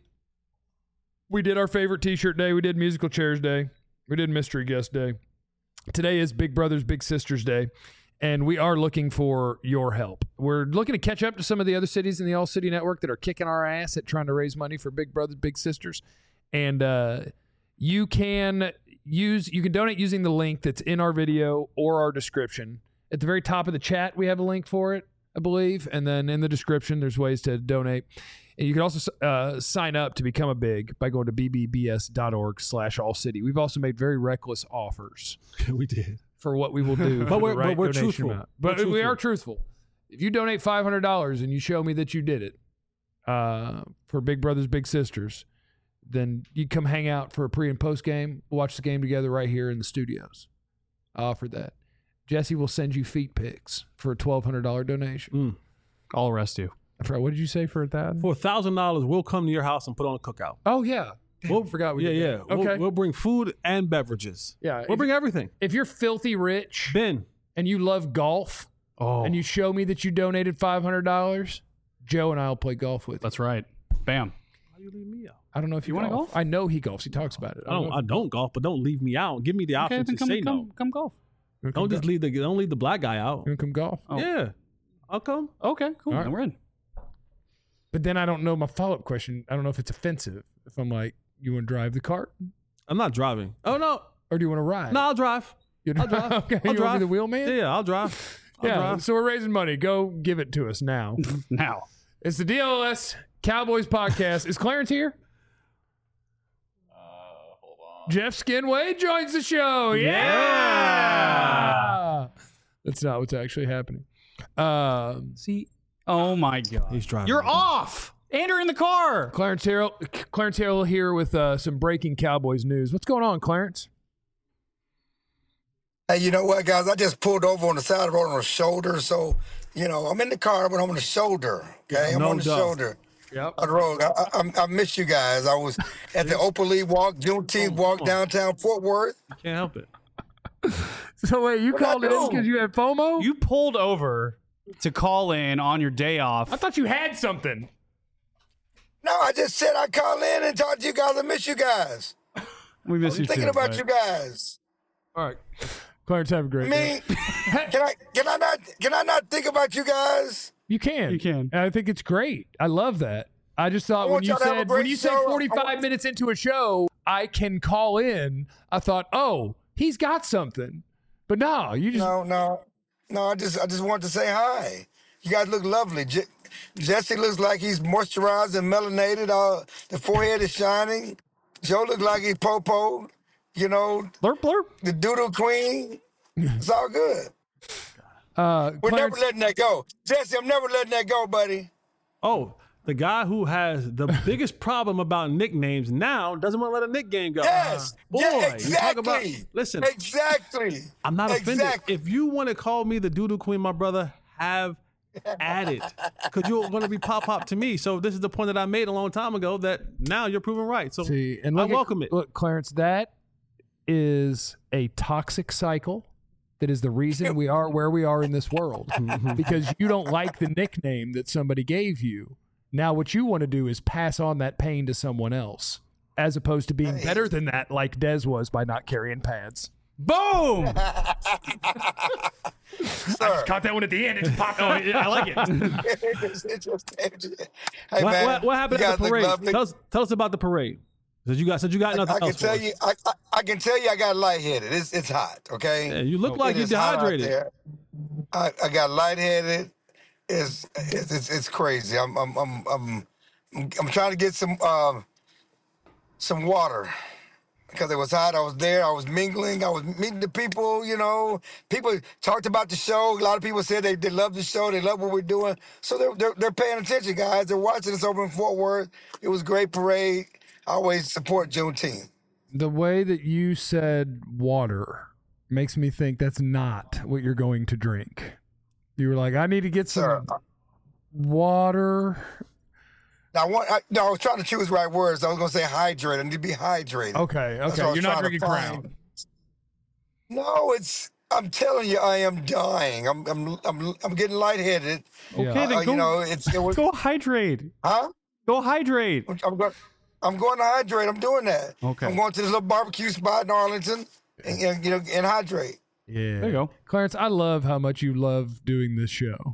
We did our favorite t-shirt day. We did musical chairs day. We did mystery guest day. Today is Big Brothers Big Sisters Day, and we are looking for your help. We're looking to catch up to some of the other cities in the All City Network that are kicking our ass at trying to raise money for Big Brothers Big Sisters. And uh, you can use you can donate using the link that's in our video or our description. At the very top of the chat, we have a link for it, I believe, and then in the description, there's ways to donate. And you can also uh, sign up to become a big by going to b b b s dot org slash all city. We've also made very reckless offers we did. for what we will do. But for we're- the but right we're donation truthful. amount. We're But we are truthful. truthful. If you donate five hundred dollars and you show me that you did it uh, for Big Brothers Big Sisters, then you come hang out for a pre and post game. We'll watch the game together right here in the studios. I offer that. Jesse will send you feet pics for a twelve hundred dollars donation. Mm. I'll arrest you. I forgot, what did you say for that? For a thousand dollars, we'll come to your house and put on a cookout. Oh, yeah. We'll, forgot we yeah, did yeah. that. Okay. We'll, we'll bring food and beverages. Yeah. We'll if, bring everything. if you're filthy rich Ben. and you love golf Oh, and you show me that you donated five hundred dollars, Joe and I will play golf with you. that's right. Bam. Why do you leave me out? I don't know if you, You wanna golf. golf? I know he golfs. He talks about it. I don't. know I don't golf, but don't leave me out. Give me the Okay, option then to come, say come, no. come golf. You wanna come Don't just golf? leave the. Don't leave the black guy out. You wanna come golf? Oh. Yeah, I'll come. Okay, cool. All right. Then we're in. But then I don't know my follow up question. I don't know if it's offensive. If I'm like, you want to drive the cart I'm not driving. Oh no, or do you want to ride? no, I'll drive. You I'll drive. okay, I'll you drive. want to be the wheel man? Yeah, yeah, I'll drive. I'll yeah. drive. So we're raising money. Go give it to us now. Now. It's the D L S Cowboys podcast. Is Clarence here? Uh, hold on. Jeff Skinway joins the show. Yeah. That's not what's actually happening. Um, See? Oh my God. He's driving. You're off. And you're in the car. Clarence Harrell, Clarence Harrell here with uh, some breaking Cowboys news. What's going on, Clarence? Hey, you know what, guys? I just pulled over on the side of the road on the shoulder. So, you know, I'm in the car, but I'm on the shoulder. Okay, I'm No on the doubt. shoulder Yep. of the road. I, I, I miss you guys. I was at the Open League Walk, Juneteenth Walk downtown Fort Worth. Can't help it. So wait, you What I called it in do? because you had FOMO? You pulled over to call in on your day off. I thought you had something. No, I just said I'd call in and talk to you guys. I miss you guys. We miss I'm you thinking too. about but- you guys. All right, Clarence, have a great I day. mean, can I can I not can I not think about you guys? You can, You can. And I think it's great. I love that. I just thought I when want you y'all to have a said great when you said show. I forty-five want- minutes into a show, I can call in. I thought, oh, he's got something. But no, you just No, no, no. I just I just wanted to say hi. You guys look lovely. Je- Jesse looks like he's moisturized and melanated. Uh, the forehead is shining. Joe looks like he's popo. You know, Blurp, blurp. the doodle queen. It's all good. uh, We're Clarence, never letting that go. Jesse, I'm never letting that go, buddy. Oh, the guy who has the biggest problem about nicknames now doesn't want to let a nickname go. Yes. Boy, yeah, you talk about. exactly. Listen, Exactly. I'm not offended. Exactly. If you want to call me the doodle queen, my brother, have at it because you're going to be pop pop to me. So this is the point that I made a long time ago that now you're proven right. So See, and I look at- welcome it. Look, Clarence, that is a toxic cycle. That is the reason we are where we are in this world because you don't like the nickname that somebody gave you. Now what you want to do is pass on that pain to someone else as opposed to being better than that like Dez was by not carrying pads. Boom! Sir. Caught that one at the end. It just popped. Oh, yeah, I like it. It's- it's just- hey, What, man, what, what happened you at the guys look parade? lovely. Tell us, tell us about the parade. Said you got said you got nothing I can else tell for you, us. I, I, I can tell you, I got lightheaded. It's it's hot. Okay. Yeah, you look like It you're is hot out dehydrated. there. I, I got lightheaded. It's it's it's, it's crazy. I'm I'm I'm I'm I'm trying to get some um some water because it was hot. I was there. I was mingling. I was meeting the people. You know, people talked about the show. A lot of people said they, they love the show. They love what we're doing. So they're they're, they're paying attention, guys. They're watching us over in Fort Worth. It was a great parade. I always support Juneteenth. The way that you said water makes me think that's not what you're going to drink. You were like, I need to get some Sir, water. Now, I, want, I, no, I was trying to choose the right words. I was going to say hydrated. I need to be hydrated. Okay, That's okay. what I was You're not trying to drinking find. Crown. No, it's. I'm telling you, I am dying. I'm. I'm. I'm. I'm getting lightheaded. Yeah. Okay, then Uh, go, you know, it's. It was, go hydrate. huh? Go hydrate. I'm going. I'm going to hydrate. I'm doing that. Okay. I'm going to this little barbecue spot in Arlington, and, and you know, and hydrate. Yeah. There you go. Clarence, I love how much you love doing this show.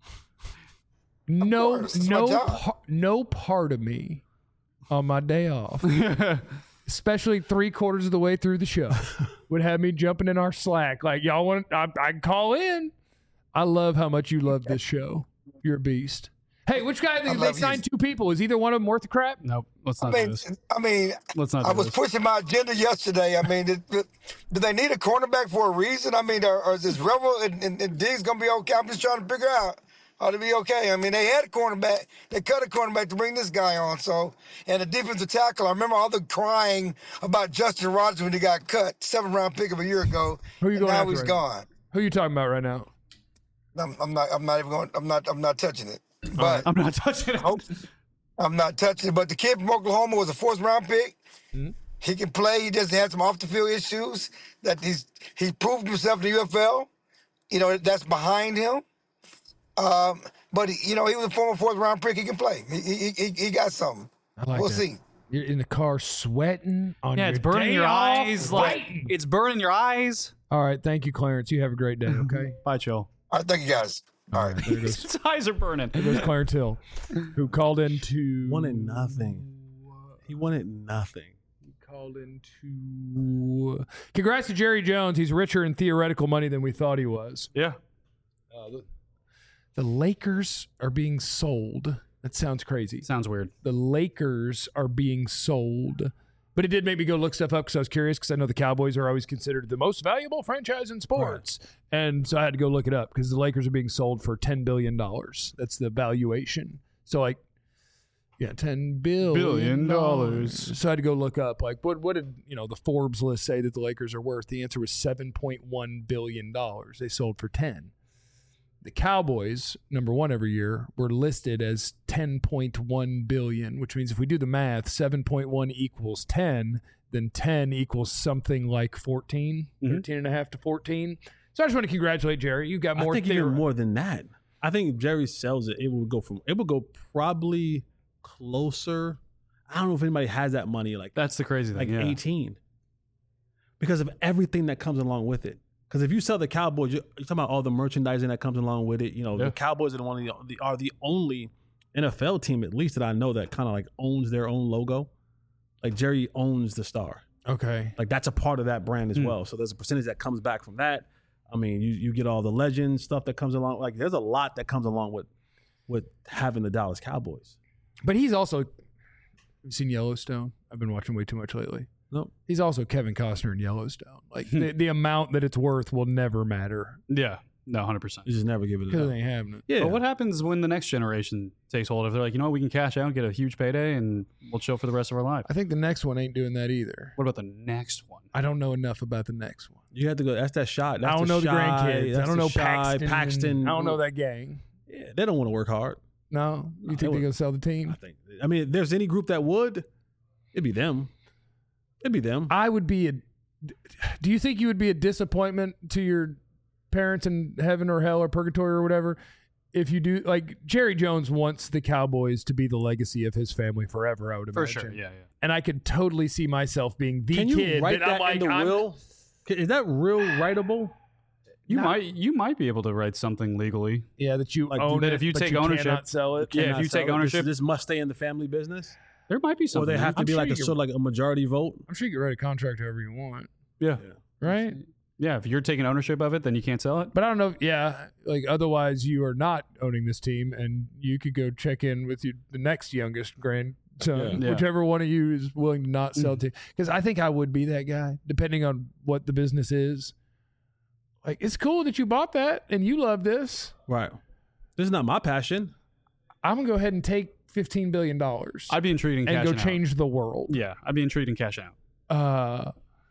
No, course, it's my no, job. par- no part of me on my day off, especially three quarters of the way through the show, would have me jumping in our Slack. Like, y'all want, I, I can call in. I love how much you love this show. You're a beast. Hey, which guy, they, they love you. signed two people. Is either one of them worth the crap? Nope. Let's I not do mean, this. I mean, Let's not do I was this. pushing my agenda yesterday. I mean, did, did they need a cornerback for a reason? I mean, or, or is this Rebel and, and, and Diggs going to be okay? I'm just trying to figure out how to be okay. I mean, they had a cornerback. They cut a cornerback to bring this guy on. So, and a defensive tackle. I remember all the crying about Justin Rogers when he got cut, seventh round pick of a year ago. Who you and going now after he's right gone. Who you talking about right now? I'm, I'm not. I'm not even going. I'm not. I'm not touching it. But I'm not touching it. Hope- I'm not touching it. But the kid from Oklahoma was a fourth round pick. He can play. He just had some off the field issues that he's he proved himself in the U F L. You know, that's behind him. Um, but he, you know, he was a former fourth round pick. He can play. He he he, he got something. I like we'll that. see. You're in the car sweating on Yeah, your it's burning day your off, eyes. Like fighting. it's burning your eyes. All right, thank you, Clarence. You have a great day. Okay. Bye, Joe. All right, thank you guys. All right. There goes, His eyes are burning. there goes Clarence Hill, who called into Wanted nothing. He wanted nothing. He called into. Congrats to Jerry Jones. He's richer in theoretical money than we thought he was. Yeah. Uh, the, the Lakers are being sold. That sounds crazy. Sounds weird. The Lakers are being sold. But it did make me go look stuff up because I was curious because I know the Cowboys are always considered the most valuable franchise in sports. And so I had to go look it up because the Lakers are being sold for ten billion dollars. That's the valuation. So like, yeah, ten billion Billion dollars. So I had to go look up like what what did, you know, the Forbes list say that the Lakers are worth? The answer was seven point one billion dollars. They sold for ten. The Cowboys, number one every year, were listed as ten point one billion dollars, which means if we do the math, seven point one equals ten, then ten equals something like fourteen, Mhm. thirteen and a half to fourteen. So I just want to congratulate Jerry. You got more I think theory. even more than that. I think if Jerry sells it, it will go from it will go probably closer. I don't know if anybody has that money like That's the crazy thing. like yeah. eighteen because of everything that comes along with it. Because if you sell the Cowboys, you're, you're talking about all the merchandising that comes along with it. You know, Yeah. the Cowboys are the one of the, are the only N F L team, at least that I know, that kind of like owns their own logo. Like Jerry owns the star. Okay. Like that's a part of that brand as Hmm. well. So there's a percentage that comes back from that. I mean, you you get all the legend stuff that comes along. Like there's a lot that comes along with with having the Dallas Cowboys. But he's also, have you seen Yellowstone? I've been watching way too much lately. Nope. He's also Kevin Costner in Yellowstone. Like the, the amount that it's worth will never matter Yeah. No, one hundred percent. You just never give it because up. they ain't having it. Yeah. But what happens when the next generation takes hold? If they're like, you know what, we can cash out, get a huge payday, and we'll chill for the rest of our life. I think the next one ain't doing that either. What about the next one? I don't know enough about the next one. You have to go. That's that shot. That's I don't know the shy, grandkids. I that's don't know shy, Paxton. Paxton. I don't know that gang. Yeah, Yeah, they don't want to work hard. No, you No, think they they're would- gonna sell the I team? think. I mean, if there's any group that would, it'd be them. It'd be them. I would be a. Do you think you would be a disappointment to your parents in heaven or hell or purgatory or whatever if you do? Like Jerry Jones wants the Cowboys to be the legacy of his family forever. I would For imagine. sure. Yeah, yeah. And I could totally see myself being the Can you kid write that, I'm that like, in the I'm- will? Is that real writable? You Nah. might you might be able to write something legally. Yeah, that you Like, own that it, if you but take you ownership- cannot sell it. Yeah, if Cannot you sell take it? ownership- this, this must stay in the family business, There might be or something. they have to I'm be sure like you a can- sort of like a majority vote. I'm sure you can write a contract however you want, yeah. right? Yeah, if you're taking ownership of it, then you can't sell it. But I don't know. If, yeah, like otherwise you are not owning this team, and you could go check in with your, the next youngest grandson, Yeah. Yeah. whichever one of you is willing to not sell to. Because I think I would be that guy, depending on what the business is. Like it's cool that you bought that and you love this. Right. This is not my passion. I'm gonna go ahead and take fifteen billion dollars I'd be intrigued in and cashing go out. change the world. Yeah, I'd be intrigued in cash out. Uh,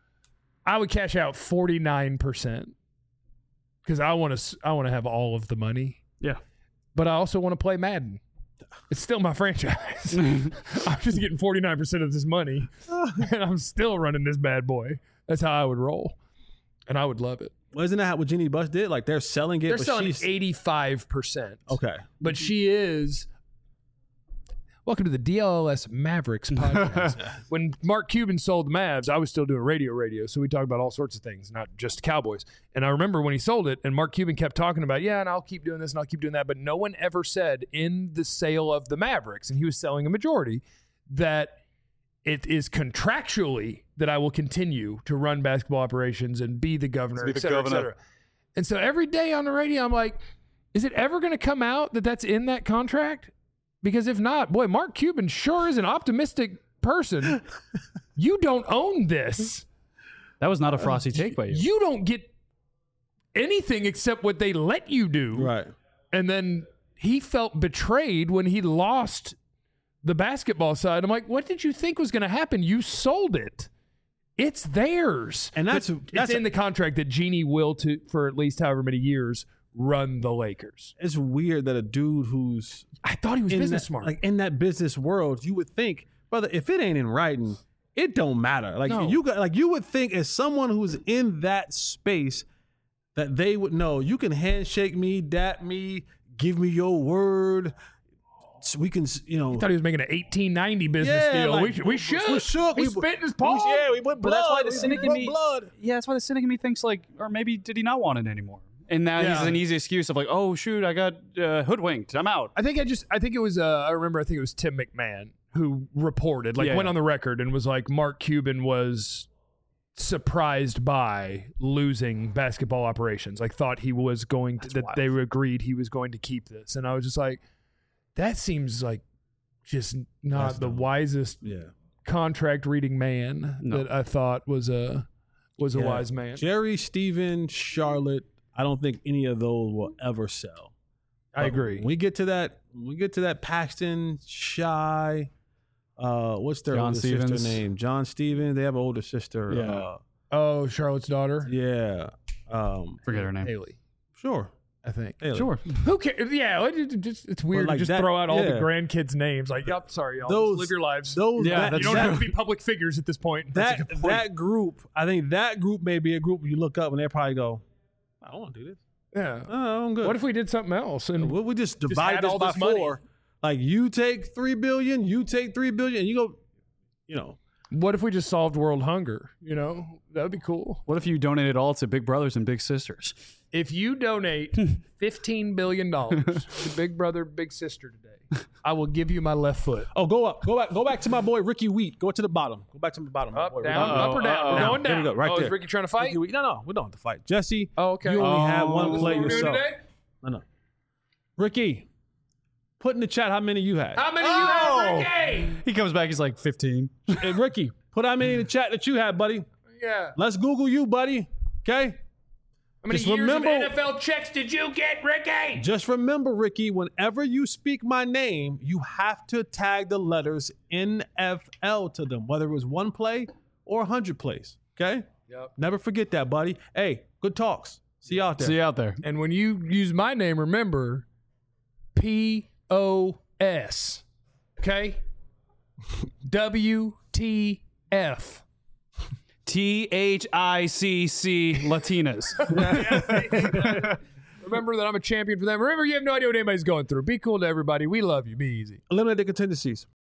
I would cash out forty-nine percent because I want to. I want to have all of the money. Yeah. But I also want to play Madden. It's still my franchise. I'm just getting forty-nine percent of this money, and I'm still running this bad boy. That's how I would roll, and I would love it. Well, isn't that what Jeannie Buss did? Like they're selling it. They're but selling she's, eighty-five percent. Okay. But she is. Welcome to the D L L S Mavericks podcast. When Mark Cuban sold the Mavs, I was still doing radio radio, so we talked about all sorts of things, not just Cowboys. And I remember when he sold it, and Mark Cuban kept talking about, yeah, and I'll keep doing this and I'll keep doing that, but no one ever said in the sale of the Mavericks, and he was selling a majority, that it is contractually that I will continue to run basketball operations and be the governor, Be et the cetera, et governor. cetera. And so every day on the radio, I'm like, is it ever going to come out that that's in that contract? Because if not, boy, Mark Cuban sure is an optimistic person. You don't own this. That was not a frosty take by you. You don't get anything except what they let you do. Right. And then he felt betrayed when he lost the basketball side. I'm like, what did you think was going to happen? You sold it. It's theirs. And that's But that's it's in the contract that Jeannie will, to for at least however many years, run the Lakers. it's weird that a dude who's I thought he was in business that, smart. like in that business world, you would think, brother, if it ain't in writing, it don't matter. Like No. you got, like you would think, as someone who's in that space, that they would know. You can handshake me, dap me, give me your word. So we can, you know. I thought he was making an eighteen ninety business Yeah, deal. like, we, should- we should. we should. He We- spit in his we- palm. yeah, we put But blood. that's why the we cynic in put me- blood. Yeah, that's why the cynic in me thinks like, or maybe did he not want it anymore? And now Yeah. he's an easy excuse of like, oh shoot, I got uh, hoodwinked. I'm out. I think I just I think it was uh, I remember I think it was Tim McMahon who reported, like Yeah, went yeah. on the record and was like, Mark Cuban was surprised by losing basketball operations. Like thought he was going to, that wild. they agreed he was going to keep this. And I was just like, that seems like just not That's the dumb. wisest Yeah. contract reading man No. that I thought was a was a Yeah. wise man. Jerry, Steven, Charlotte. I don't think any of those will ever sell. I But agree. When we get to that, when we get to that Paxton, Shy, uh, what's their John older Stevens. sister name? John Stevens. They have an older sister. Yeah. Uh, Oh, Charlotte's daughter, yeah. Um, Forget her name. Haley, sure. I think. Haley. Sure. Who cares? Yeah, it, it just, it's weird like to just that- throw out all the yeah. grandkids' names. Like, yep, sorry, y'all. Those- Just live your lives. Those, Yeah, that, that's you don't that, have to be public figures at this point. That's a that, good point. that group, I think that group may be a group you look up and they probably go, I don't want to do this. yeah. Oh, I'm good. What if we did something else? And Well, we just divide had this all by this money. four. Like you take three billion, you take three billion, and you go, you know, what if we just solved world hunger? You know, that would be cool. What if you donated all to Big Brothers and Big Sisters? If you donate fifteen billion dollars to Big Brother, Big Sister today, I will give you my left foot. oh, go up, go back, go back to my boy Ricky Wheat. Go to the bottom. Go back to the bottom. my Up, boy, down, Ricky. up or down. We're Uh-oh. going There down. we go, right oh, there. is Ricky trying to fight? Ricky Wheat. No, no, we don't have to fight. Jesse, Oh, okay. you only Oh, have one this is play What we're doing yourself. today? No, no. Ricky, put in the chat how many you had. How many Oh! you have, Ricky? He comes back, he's like fifteen. Hey, Ricky, put how many in the chat that you had, buddy. Yeah. Let's Google you, buddy. Okay? How many Just years remember- of N F L checks did you get, Ricky? Just remember, Ricky, whenever you speak my name, you have to tag the letters N F L to them, whether it was one play or one hundred plays. Okay? Yep. Never forget that, buddy. Hey, good talks. See you out there. See you out there. And when you use my name, remember, P O S. Okay? W T F. T H I C C Latinas. Remember that I'm a champion for them. Remember, you have no idea what anybody's going through. Be cool to everybody. We love you. Be easy. Eliminate the contingencies.